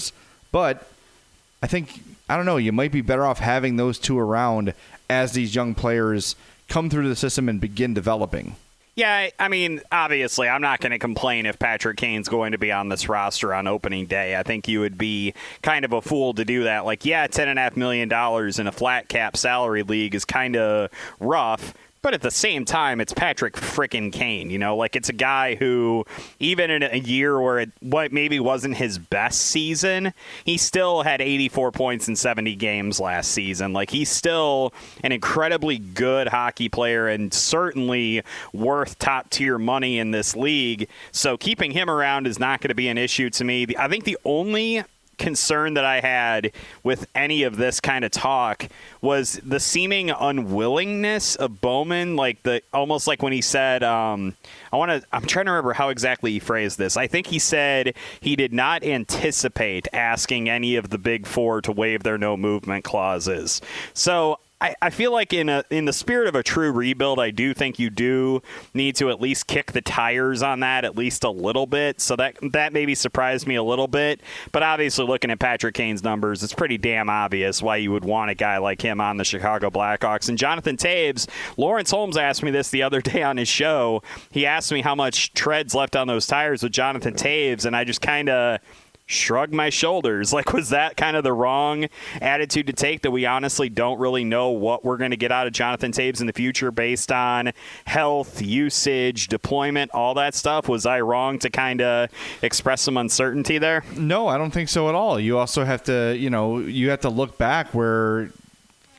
but I think, I don't know, you might be better off having those two around as these young players come through the system and begin developing. Yeah, I mean, obviously, I'm not going to complain if Patrick Kane's going to be on this roster on opening day. I think you would be kind of a fool to do that. Like, yeah, $10.5 million in a flat cap salary league is kind of rough. But at the same time, it's Patrick frickin' Kane, like it's a guy who, even in a year where what maybe wasn't his best season, he still had 84 points in 70 games last season. Like, he's still an incredibly good hockey player and certainly worth top tier money in this league. So keeping him around is not going to be an issue to me. I think the only concern that I had with any of this kind of talk was the seeming unwillingness of Bowman, almost like when he said, I'm trying to remember how exactly he phrased this. I think he said he did not anticipate asking any of the big four to waive their no movement clauses. So I feel like in the spirit of a true rebuild, I do think you do need to at least kick the tires on that at least a little bit. So that maybe surprised me a little bit. But obviously, looking at Patrick Kane's numbers, it's pretty damn obvious why you would want a guy like him on the Chicago Blackhawks. And Jonathan Taves, Lawrence Holmes asked me this the other day on his show. He asked me how much tread's left on those tires with Jonathan Taves, and I just kind of shrugged my shoulders. Like, was that kind of the wrong attitude to take, that we honestly don't really know what we're going to get out of Jonathan Taves in the future based on health, usage, deployment, all that stuff? Was I wrong to kind of express some uncertainty there? No, I don't think so at all. You also have to, you have to look back where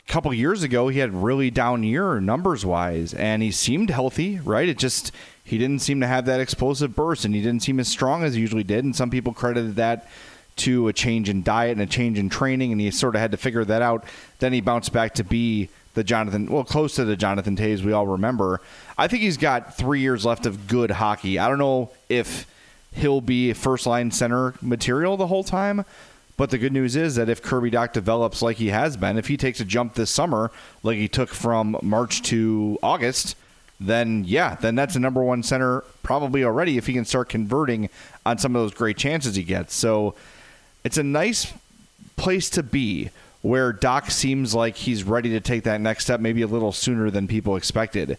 couple years ago, he had really down year numbers-wise, and he seemed healthy, right? He didn't seem to have that explosive burst, and he didn't seem as strong as he usually did, and some people credited that to a change in diet and a change in training, and he sort of had to figure that out. Then he bounced back to be close to the Jonathan Toews we all remember. I think he's got 3 years left of good hockey. I don't know if he'll be first-line center material the whole time, but the good news is that if Kirby Dach develops like he has been, if he takes a jump this summer like he took from March to August, then that's a number one center probably already if he can start converting on some of those great chances he gets. So it's a nice place to be where Dach seems like he's ready to take that next step, maybe a little sooner than people expected.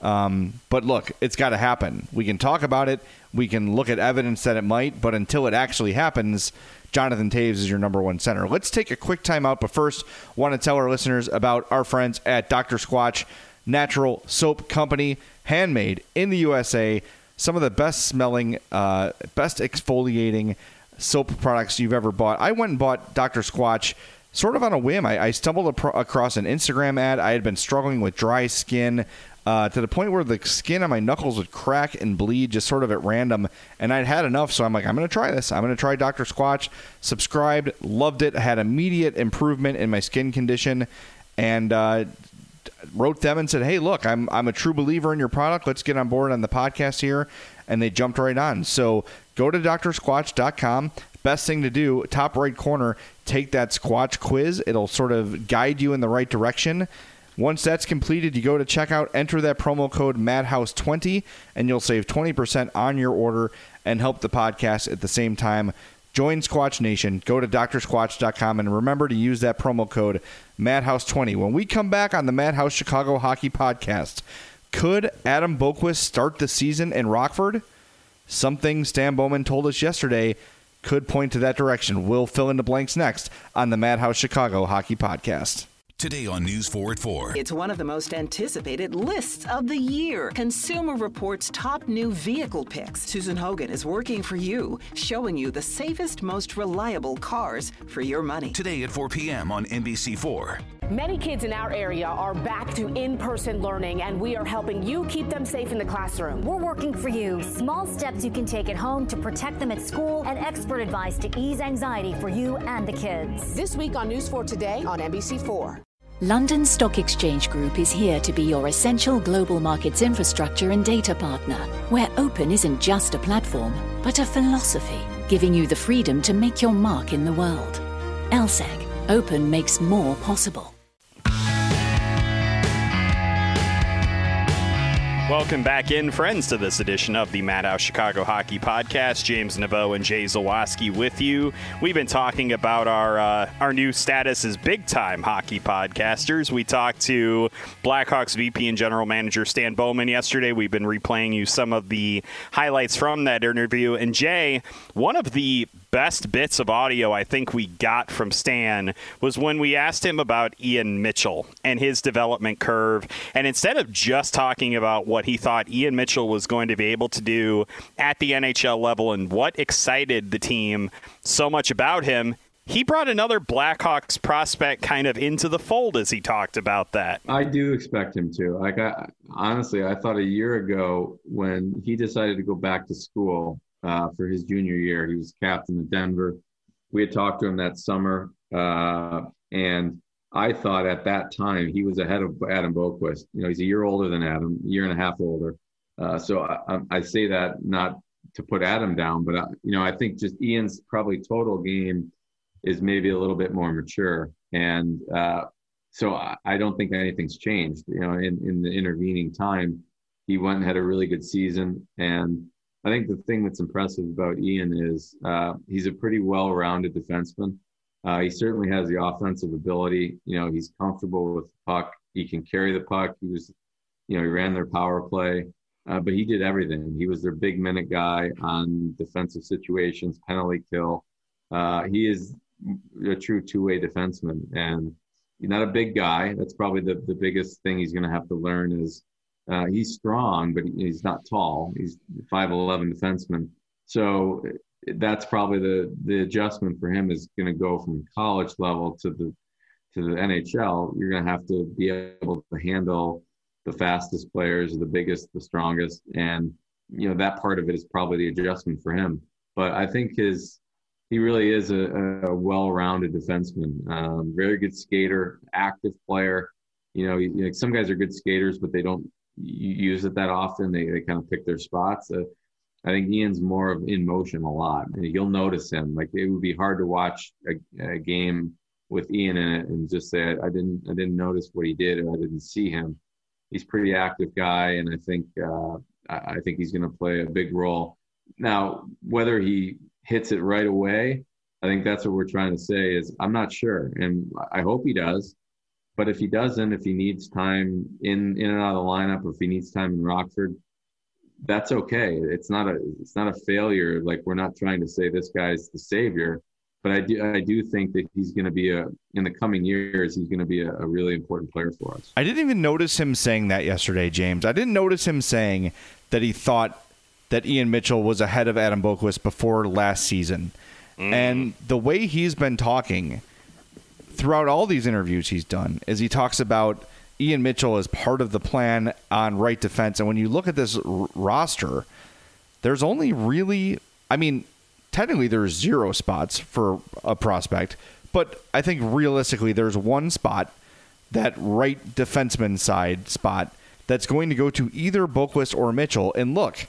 But look, it's got to happen. We can talk about it. We can look at evidence that it might, but until it actually happens, Jonathan Toews is your number one center. Let's take a quick time out, but first, want to tell our listeners about our friends at Dr. Squatch Natural Soap Company, handmade in the USA. Some of the best smelling, best exfoliating soap products you've ever bought. I went and bought Dr. Squatch sort of on a whim. I stumbled across an Instagram ad. I had been struggling with dry skin to the point where the skin on my knuckles would crack and bleed just sort of at random, and I'd had enough, so I'm like, I'm going to try this. I'm going to try Dr. Squatch. Subscribed, loved it, had immediate improvement in my skin condition, and wrote them and said, hey, look, I'm a true believer in your product. Let's get on board on the podcast here, and they jumped right on. So go to drsquatch.com. Best thing to do, top right corner, take that Squatch quiz. It'll sort of guide you in the right direction. Once that's completed, you go to checkout, enter that promo code MADHOUSE20, and you'll save 20% on your order and help the podcast at the same time. Join Squatch Nation. Go to drsquatch.com and remember to use that promo code MADHOUSE20. When we come back on the Madhouse Chicago Hockey Podcast, could Adam Boqvist start the season in Rockford? Something Stan Bowman told us yesterday could point to that direction. We'll fill in the blanks next on the Madhouse Chicago Hockey Podcast. Today on News 4 at 4. It's one of the most anticipated lists of the year. Consumer Reports' top new vehicle picks. Susan Hogan is working for you, showing you the safest, most reliable cars for your money. Today at 4 p.m. on NBC4. Many kids in our area are back to in-person learning, and we are helping you keep them safe in the classroom. We're working for you. Small steps you can take at home to protect them at school, and expert advice to ease anxiety for you and the kids. This week on News 4 Today on NBC4. London Stock Exchange Group is here to be your essential global markets infrastructure and data partner, where open isn't just a platform, but a philosophy, giving you the freedom to make your mark in the world. LSEG. Open makes more possible. Welcome back in, friends, to this edition of the Madhouse Chicago Hockey Podcast. James Naveau and Jay Zawaski with you. We've been talking about our new status as big-time hockey podcasters. We talked to Blackhawks VP and General Manager Stan Bowman yesterday. We've been replaying you some of the highlights from that interview. And Jay, one of the best bits of audio I think we got from Stan was when we asked him about Ian Mitchell and his development curve. And instead of just talking about what he thought Ian Mitchell was going to be able to do at the NHL level and what excited the team so much about him, he brought another Blackhawks prospect kind of into the fold as he talked about that. I do expect him to. Honestly, I thought a year ago when he decided to go back to school for his junior year, he was captain of Denver. We had talked to him that summer, and I thought at that time he was ahead of Adam Boqvist. You know, he's a year older than Adam, a year and a half older. So I say that not to put Adam down, but I think just Ian's probably total game is maybe a little bit more mature, and so I don't think anything's changed. You know, in the intervening time, he went and had a really good season, and I think the thing that's impressive about Ian is he's a pretty well-rounded defenseman. He certainly has the offensive ability. You know, he's comfortable with the puck. He can carry the puck. He ran their power play, but he did everything. He was their big minute guy on defensive situations, penalty kill. He is a true two-way defenseman, and he's not a big guy. That's probably the biggest thing he's going to have to learn is he's strong, but he's not tall. He's 5'11" defenseman. So that's probably the adjustment for him is going to go from college level to to the NHL, you're going to have to be able to handle the fastest players, the biggest, the strongest. And, that part of it is probably the adjustment for him. But I think he really is a well-rounded defenseman, very good skater, active player. Some guys are good skaters, but they don't use it that often. They kind of pick their spots. I think Ian's more of in motion a lot, and you'll notice him. Like, it would be hard to watch a game with Ian in it and just say, I didn't notice what he did, or I didn't see him. He's a pretty active guy, and I think he's going to play a big role. Now, whether he hits it right away, I think that's what we're trying to say is I'm not sure, and I hope he does. But if he doesn't, if he needs time in and out of the lineup, or if he needs time in Rockford, that's okay. It's not a failure. Like, we're not trying to say this guy's the savior, but I do think that he's going to be in the coming years, he's going to be a really important player for us. I didn't even notice him saying that yesterday, James. I didn't notice him saying that he thought that Ian Mitchell was ahead of Adam Boqvist before last season. And the way he's been talking throughout all these interviews he's done is he talks about Ian Mitchell as part of the plan on right defense. And when you look at this roster, there's only really, technically there's 0 spots for a prospect, but I think realistically there's one spot, that right defenseman side spot, that's going to go to either Boqvist or Mitchell. And look,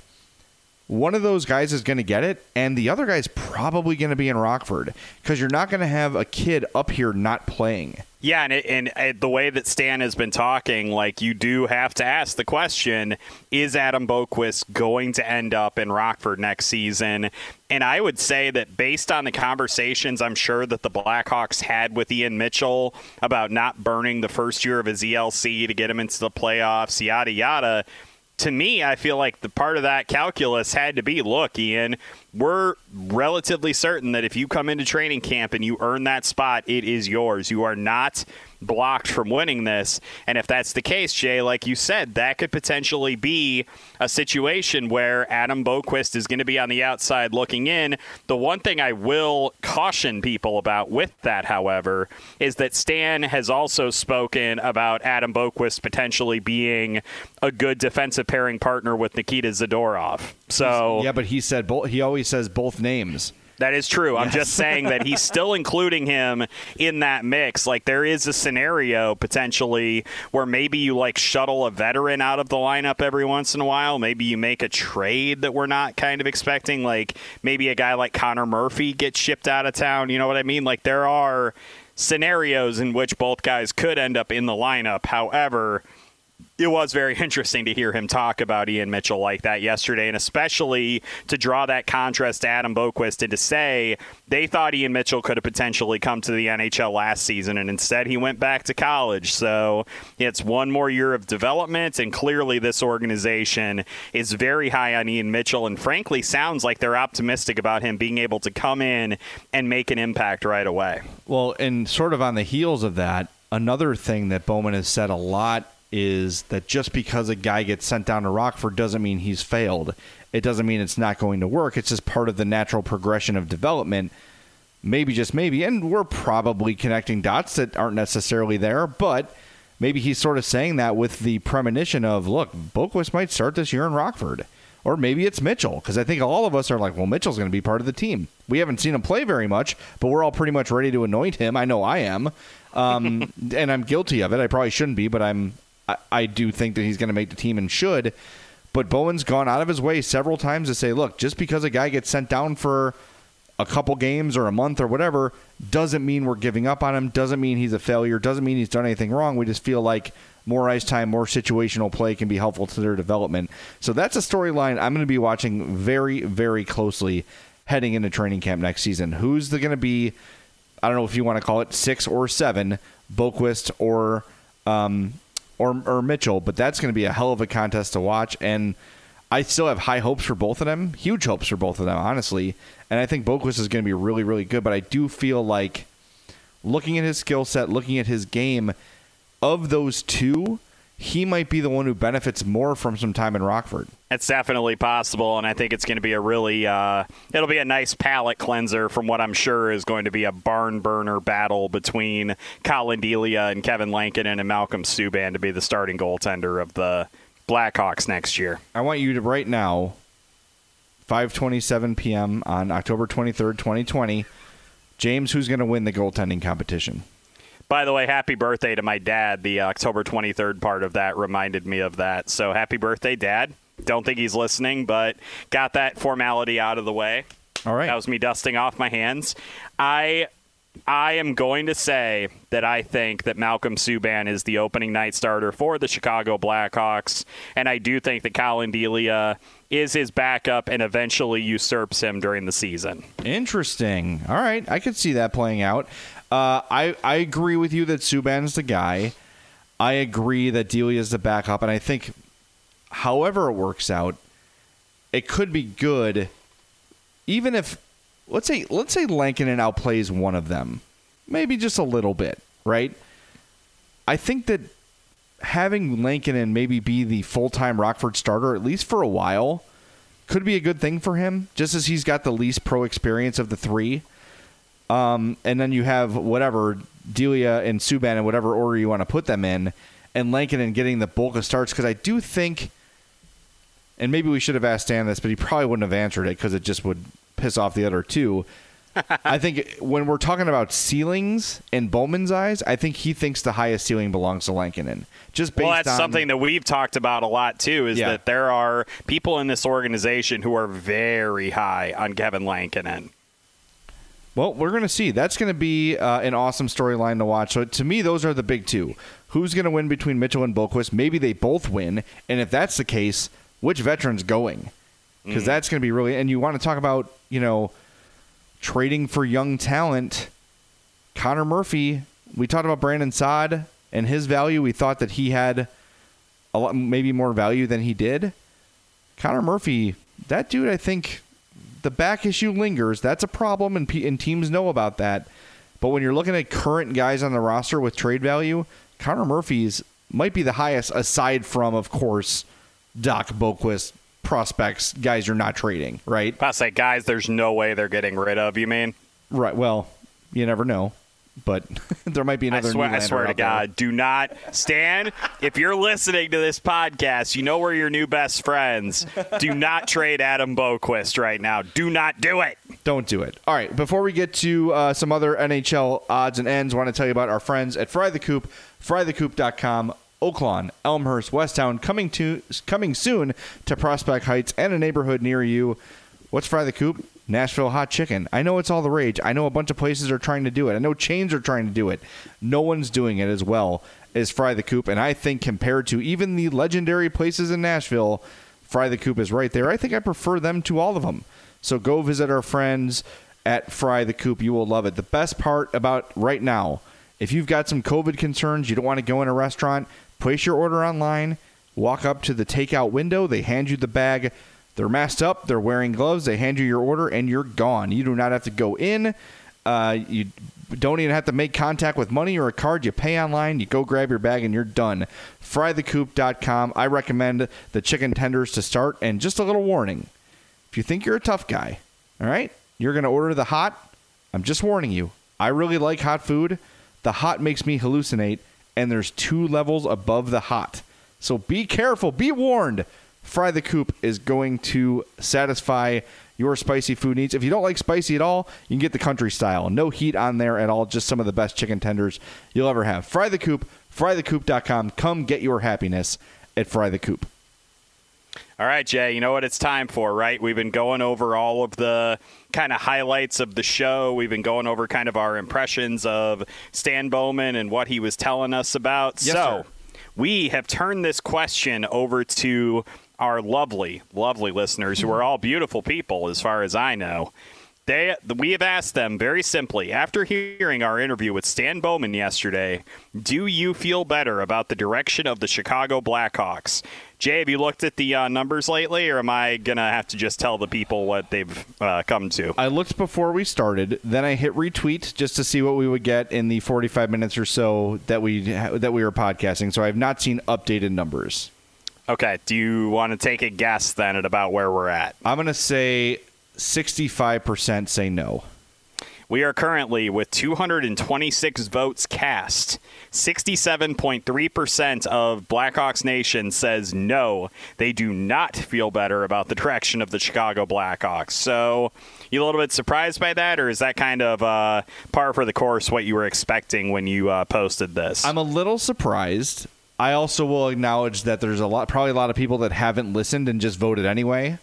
one of those guys is going to get it, and the other guy's probably going to be in Rockford, because you're not going to have a kid up here not playing. Yeah, and the way that Stan has been talking, like, you do have to ask the question, is Adam Boqvist going to end up in Rockford next season? And I would say that based on the conversations I'm sure that the Blackhawks had with Ian Mitchell about not burning the first year of his ELC to get him into the playoffs, yada, yada, to me, I feel like the part of that calculus had to be, look, Ian, we're relatively certain that if you come into training camp and you earn that spot, it is yours. You are not blocked from winning this. And if that's the case, Jay, like you said, that could potentially be a situation where Adam Boqvist is going to be on the outside looking in. The one thing I will caution people about with that, however, is that Stan has also spoken about Adam Boqvist potentially being a good defensive pairing partner with Nikita Zadorov. So yeah, but he said he always says both names. That is true. I'm just saying that he's still including him in that mix. Like, there is a scenario potentially where maybe you shuttle a veteran out of the lineup every once in a while. Maybe you make a trade that we're not kind of expecting. Like, maybe a guy like Connor Murphy gets shipped out of town. You know what I mean? Like, there are scenarios in which both guys could end up in the lineup. However, it was very interesting to hear him talk about Ian Mitchell like that yesterday, and especially to draw that contrast to Adam Boqvist and to say they thought Ian Mitchell could have potentially come to the NHL last season, and instead he went back to college. So it's one more year of development, and clearly this organization is very high on Ian Mitchell, and frankly sounds like they're optimistic about him being able to come in and make an impact right away. Well, and sort of on the heels of that, another thing that Bowman has said a lot is that just because a guy gets sent down to Rockford doesn't mean he's failed. It doesn't mean it's not going to work. It's just part of the natural progression of development. Maybe, just maybe, and we're probably connecting dots that aren't necessarily there, but maybe he's sort of saying that with the premonition of, look, Boqvist might start this year in Rockford. Or maybe it's Mitchell, because I think all of us are like, well, Mitchell's going to be part of the team. We haven't seen him play very much, but we're all pretty much ready to anoint him. I know I am, and I'm guilty of it. I probably shouldn't be, but I do think that he's going to make the team and should. But Bowen's gone out of his way several times to say, look, just because a guy gets sent down for a couple games or a month or whatever doesn't mean we're giving up on him, doesn't mean he's a failure, doesn't mean he's done anything wrong. We just feel like more ice time, more situational play can be helpful to their development. So that's a storyline I'm going to be watching very, very closely heading into training camp next season. Who's going to be, I don't know if you want to call it 6 or 7, Boqvist or Mitchell, but that's going to be a hell of a contest to watch, and I still have high hopes for both of them, huge hopes for both of them, honestly, and I think Boqvist is going to be really, really good, but I do feel like looking at his skill set, looking at his game, of those two, he might be the one who benefits more from some time in Rockford. It's definitely possible, and I think it's going to be a really it'll be a nice palate cleanser from what I'm sure is going to be a barn burner battle between Colin Delia and Kevin Lankinen and Malcolm Subban to be the starting goaltender of the Blackhawks next year. I want you to right now, 5:27 p.m. on October 23rd, 2020, James, who's going to win the goaltending competition? By the way, happy birthday to my dad. The October 23rd part of that reminded me of that. So happy birthday, Dad. Don't think he's listening, but got that formality out of the way. All right. That was me dusting off my hands. I am going to say that I think that Malcolm Subban is the opening night starter for the Chicago Blackhawks, and I do think that Colin Delia is his backup and eventually usurps him during the season. Interesting. All right. I could see that playing out. I agree with you that Subban's the guy. I agree that Delia's the backup, and I think however it works out, it could be good even if let's say Lankinen outplays one of them. Maybe just a little bit, right? I think that having Lankinen maybe be the full-time Rockford starter, at least for a while, could be a good thing for him, just as he's got the least pro experience of the three. And then you have whatever, Delia and Subban in whatever order you want to put them in, and Lankinen getting the bulk of starts, because I do think, and maybe we should have asked Dan this, but he probably wouldn't have answered it because it just would piss off the other two. I think when we're talking about ceilings in Bowman's eyes, I think he thinks the highest ceiling belongs to Lankinen. Just based that's on something that we've talked about a lot, too, is that there are people in this organization who are very high on Kevin Lankinen. Well, we're going to see. That's going to be an awesome storyline to watch. So to me, those are the big two. Who's going to win between Mitchell and Boqvist? Maybe they both win. And if that's the case, which veteran's going? Because that's going to be really... And you want to talk about, trading for young talent. Connor Murphy, we talked about Brandon Saad and his value. We thought that he had a lot, maybe more value than he did. Connor Murphy, that dude, I think... The back issue lingers. That's a problem, and teams know about that. But when you're looking at current guys on the roster with trade value, Connor Murphy's might be the highest, aside from, of course, Doc Boqvist prospects, guys you're not trading, right? I say guys there's no way they're getting rid of, you mean? Right. Well, you never know. But there might be another I swear to God, do not, Stan, if you're listening to this podcast, you know we're your new best friends. Do not trade Adam Boqvist right now. Do not do it. Don't do it. All right, before we get to some other NHL odds and ends, I want to tell you about our friends at Fry the Coop, frythecoop.com. Oaklawn, Elmhurst, Westtown, coming soon to Prospect Heights and a neighborhood near you. What's Fry the Coop? Nashville hot chicken. I know it's all the rage. I know a bunch of places are trying to do it. I know chains are trying to do it. No one's doing it as well as Fry the Coop. And I think compared to even the legendary places in Nashville, Fry the Coop is right there. I think I prefer them to all of them. So go visit our friends at Fry the Coop. You will love it. The best part about right now, if you've got some COVID concerns, you don't want to go in a restaurant, place your order online, walk up to the takeout window, they hand you the bag. They're masked up. They're wearing gloves. They hand you your order, and you're gone. You do not have to go in. You don't even have to make contact with money or a card. You pay online. You go grab your bag, and you're done. Frythecoop.com. I recommend the chicken tenders to start. And just a little warning. If you think you're a tough guy, all right, you're going to order the hot. I'm just warning you. I really like hot food. The hot makes me hallucinate, and there's 2 levels above the hot. So be careful. Be warned. Fry the Coop is going to satisfy your spicy food needs. If you don't like spicy at all, you can get the country style. No heat on there at all. Just some of the best chicken tenders you'll ever have. Fry the Coop, frythecoop.com. Come get your happiness at Fry the Coop. All right, Jay, you know what it's time for, right? We've been going over all of the kind of highlights of the show. We've been going over kind of our impressions of Stan Bowman and what he was telling us about. Yes, sir. We have turned this question over to our lovely, lovely listeners who are all beautiful people as far as I know. We have asked them very simply, after hearing our interview with Stan Bowman yesterday, do you feel better about the direction of the Chicago Blackhawks? Jay, have you looked at the numbers lately, or am I going to have to just tell the people what they've come to? I looked before we started, then I hit retweet just to see what we would get in the 45 minutes or so that we were podcasting, so I have not seen updated numbers. Okay, do you want to take a guess then at about where we're at? I'm going to say 65% say no. We are currently, with 226 votes cast, 67.3% of Blackhawks Nation says no, they do not feel better about the direction of the Chicago Blackhawks. So, you a little bit surprised by that, or is that kind of par for the course what you were expecting when you posted this? I'm a little surprised. I also will acknowledge that there's probably a lot of people that haven't listened and just voted anyway.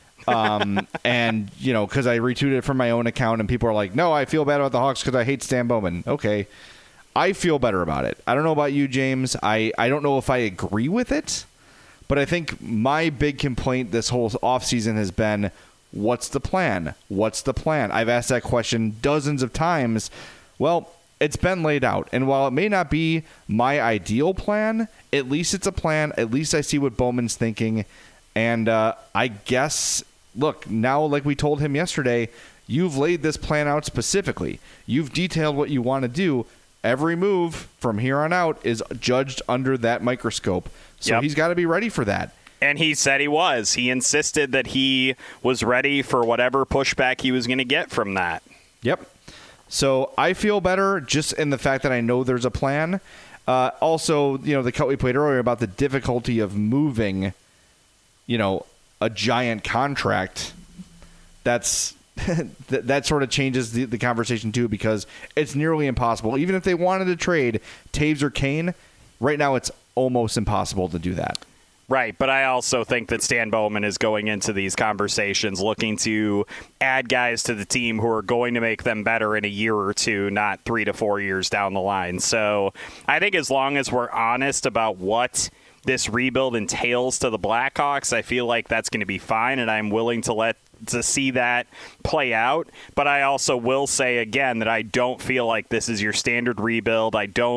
And, you know, because I retweeted it from my own account and people are like, no, I feel bad about the Hawks because I hate Stan Bowman. Okay. I feel better about it. I don't know about you, James. I don't know if I agree with it, but I think my big complaint this whole offseason has been, what's the plan? What's the plan? I've asked that question dozens of times. Well, it's been laid out. And while it may not be my ideal plan, at least it's a plan. At least I see what Bowman's thinking. And I guess, look, now like we told him yesterday, you've laid this plan out specifically. You've detailed what you want to do. Every move from here on out is judged under that microscope. So He's got to be ready for that. And he said he was. He insisted that he was ready for whatever pushback he was going to get from that. Yep. So I feel better just in the fact that I know there's a plan. Also, you know, the cut we played earlier about the difficulty of moving, you know, a giant contract, that's that sort of changes the conversation too, because it's nearly impossible. Even if they wanted to trade Taves or Kane, right now it's almost impossible to do that. Right, but I also think that Stan Bowman is going into these conversations looking to add guys to the team who are going to make them better in a year or two, not 3 to 4 years down the line. So I think as long as we're honest about what this rebuild entails to the Blackhawks, I feel like that's going to be fine, and I'm willing to see that play out. But I also will say again that I don't feel like this is your standard rebuild.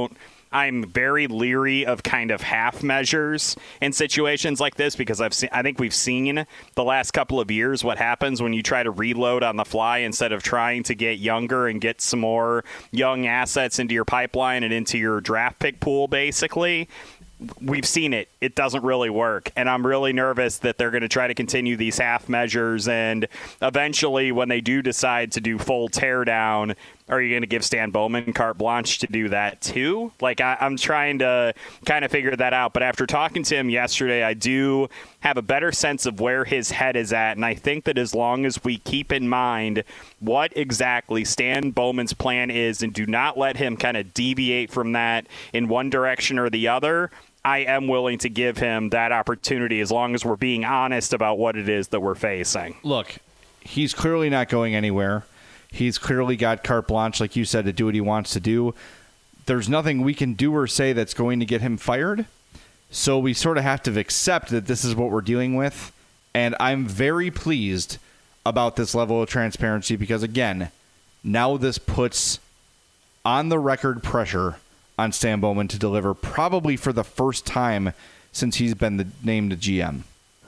I'm very leery of kind of half measures in situations like this, because I think we've seen the last couple of years what happens when you try to reload on the fly instead of trying to get younger and get some more young assets into your pipeline and into your draft pick pool, basically. We've seen it. It doesn't really work. And I'm really nervous that they're going to try to continue these half measures. And eventually, when they do decide to do full teardown, are you going to give Stan Bowman carte blanche to do that too? Like, I'm trying to kind of figure that out. But after talking to him yesterday, I do have a better sense of where his head is at. And I think that as long as we keep in mind what exactly Stan Bowman's plan is and do not let him kind of deviate from that in one direction or the other, I am willing to give him that opportunity as long as we're being honest about what it is that we're facing. Look, he's clearly not going anywhere. He's clearly got carte blanche, like you said, to do what he wants to do. There's nothing we can do or say that's going to get him fired. So we sort of have to accept that this is what we're dealing with. And I'm very pleased about this level of transparency because, again, now this puts on the record pressure on Stan Bowman to deliver probably for the first time since he's been named the GM.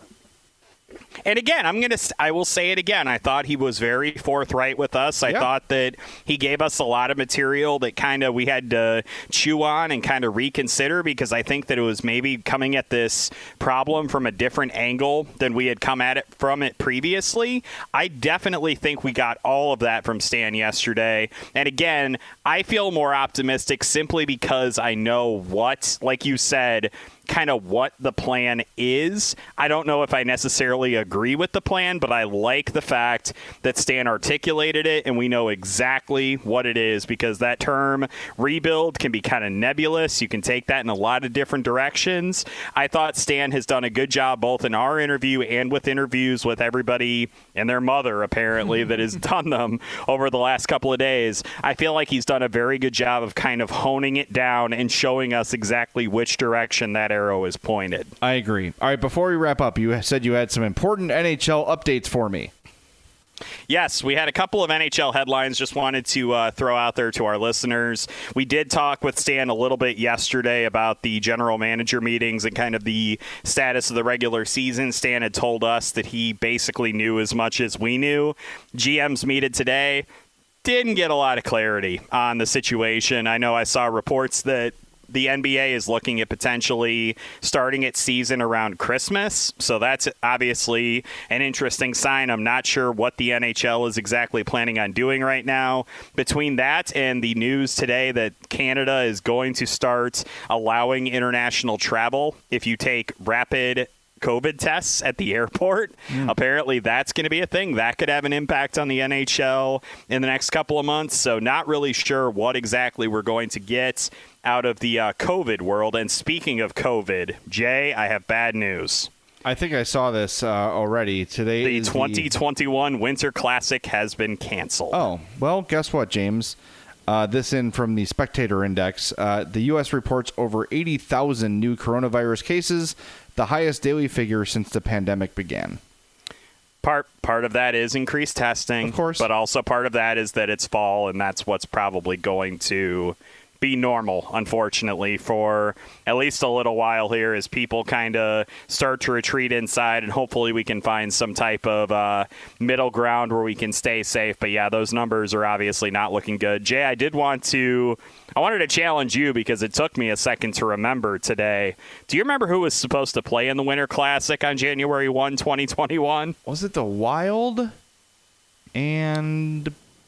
And again, I will say it again. I thought he was very forthright with us. I thought that he gave us a lot of material that kind of we had to chew on and kind of reconsider, because I think that it was maybe coming at this problem from a different angle than we had come at it from it previously. I definitely think we got all of that from Stan yesterday. And again, I feel more optimistic simply because I know what, like you said, kind of what the plan is. I don't know if I necessarily agree with the plan, but I like the fact that Stan articulated it and we know exactly what it is, because that term rebuild can be kind of nebulous. You can take that in a lot of different directions. I thought Stan has done a good job both in our interview and with interviews with everybody and their mother, apparently, that has done them over the last couple of days. I feel like he's done a very good job of kind of honing it down and showing us exactly which direction that arrow is pointed. I agree. All right, before we wrap up, you said you had some important NHL updates for me. Yes, we had a couple of NHL headlines just wanted to throw out there to our listeners. We did talk with Stan a little bit yesterday about the general manager meetings and kind of the status of the regular season. Stan had told us that he basically knew as much as we knew. GMs meted today. Didn't get a lot of clarity on the situation. I know I saw reports that the NBA is looking at potentially starting its season around Christmas. So that's obviously an interesting sign. I'm not sure what the NHL is exactly planning on doing right now. Between that and the news today that Canada is going to start allowing international travel if you take rapid COVID tests at the airport. Apparently that's going to be a thing that could have an impact on the NHL in the next couple of months. So not really sure what exactly we're going to get out of the COVID world. And speaking of COVID, Jay, I have bad news. I think I saw this already. Today the 2021 Winter Classic has been canceled. Oh, well, guess what, James? This in from the Spectator Index. The U.S. reports over 80,000 new coronavirus cases, the highest daily figure since the pandemic began. Part of that is increased testing, of course, but also part of that is that it's fall, and that's what's probably going to be normal, unfortunately, for at least a little while here as people kind of start to retreat inside, and hopefully we can find some type of middle ground where we can stay safe. But yeah, those numbers are obviously not looking good. Jay, I wanted to challenge you because it took me a second to remember today. Do you remember who was supposed to play in the Winter Classic on January 1, 2021? Was it the Wild and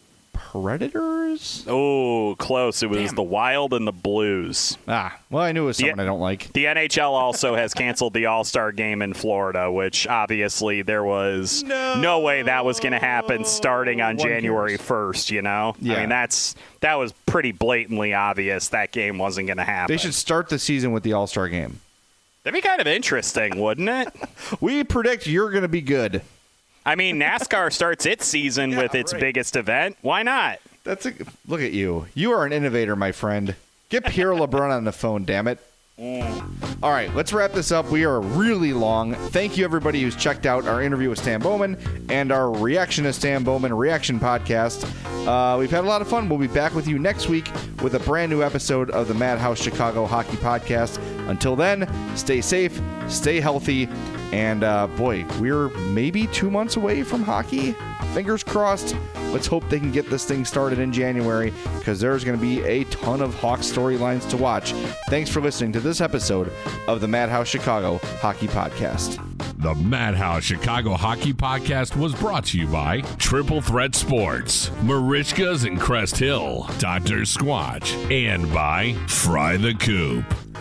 Predators? Oh, close. It was the Wild and the Blues. Well, I knew it was someone I don't like. The NHL also has canceled the All-Star game in Florida, which obviously there was no way that was going to happen starting on January 1st, you know? Yeah. I mean, that was pretty blatantly obvious that game wasn't going to happen. They should start the season with the All-Star game. That'd be kind of interesting, wouldn't it? We predict you're going to be good. I mean, NASCAR starts its season with its biggest event. Why not? Look at you. You are an innovator, my friend. Get Pierre LeBrun on the phone, damn it. All right, let's wrap this up. We are really long. Thank you, everybody who's checked out our interview with Stan Bowman and our Reaction to Stan Bowman reaction podcast. We've had a lot of fun. We'll be back with you next week with a brand new episode of the Madhouse Chicago Hockey Podcast. Until then, stay safe, stay healthy, and boy, we're maybe 2 months away from hockey. Fingers crossed. Let's hope they can get this thing started in January because there's going to be a ton of Hawks storylines to watch. Thanks for listening to this episode of the Madhouse Chicago Hockey Podcast. The Madhouse Chicago Hockey Podcast was brought to you by Triple Threat Sports, Marishka's in Crest Hill, Dr. Squatch, and by Fry the Coop.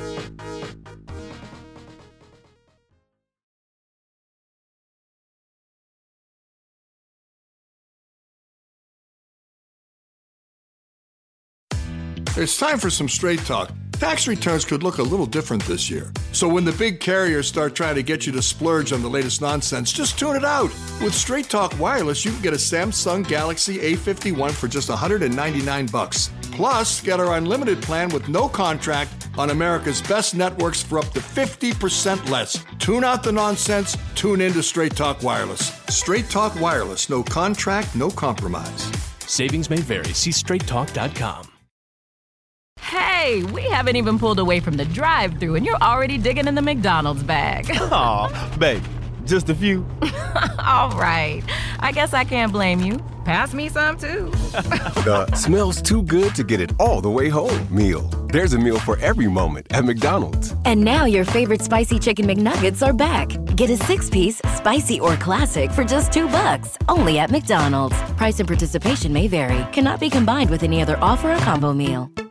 It's time for some straight talk. Tax returns could look a little different this year. So when the big carriers start trying to get you to splurge on the latest nonsense, just tune it out. With Straight Talk Wireless, you can get a Samsung Galaxy A51 for just $199. Plus, get our unlimited plan with no contract on America's best networks for up to 50% less. Tune out the nonsense. Tune in to Straight Talk Wireless. Straight Talk Wireless. No contract, no compromise. Savings may vary. See straighttalk.com. Hey, we haven't even pulled away from the drive-thru and you're already digging in the McDonald's bag. Aw, babe, just a few. All right, I guess I can't blame you. Pass me some, too. The smells too good to get it all the way home meal. There's a meal for every moment at McDonald's. And now your favorite spicy chicken McNuggets are back. Get a 6-piece, spicy or classic for just $2. Only at McDonald's. Price and participation may vary. Cannot be combined with any other offer or combo meal.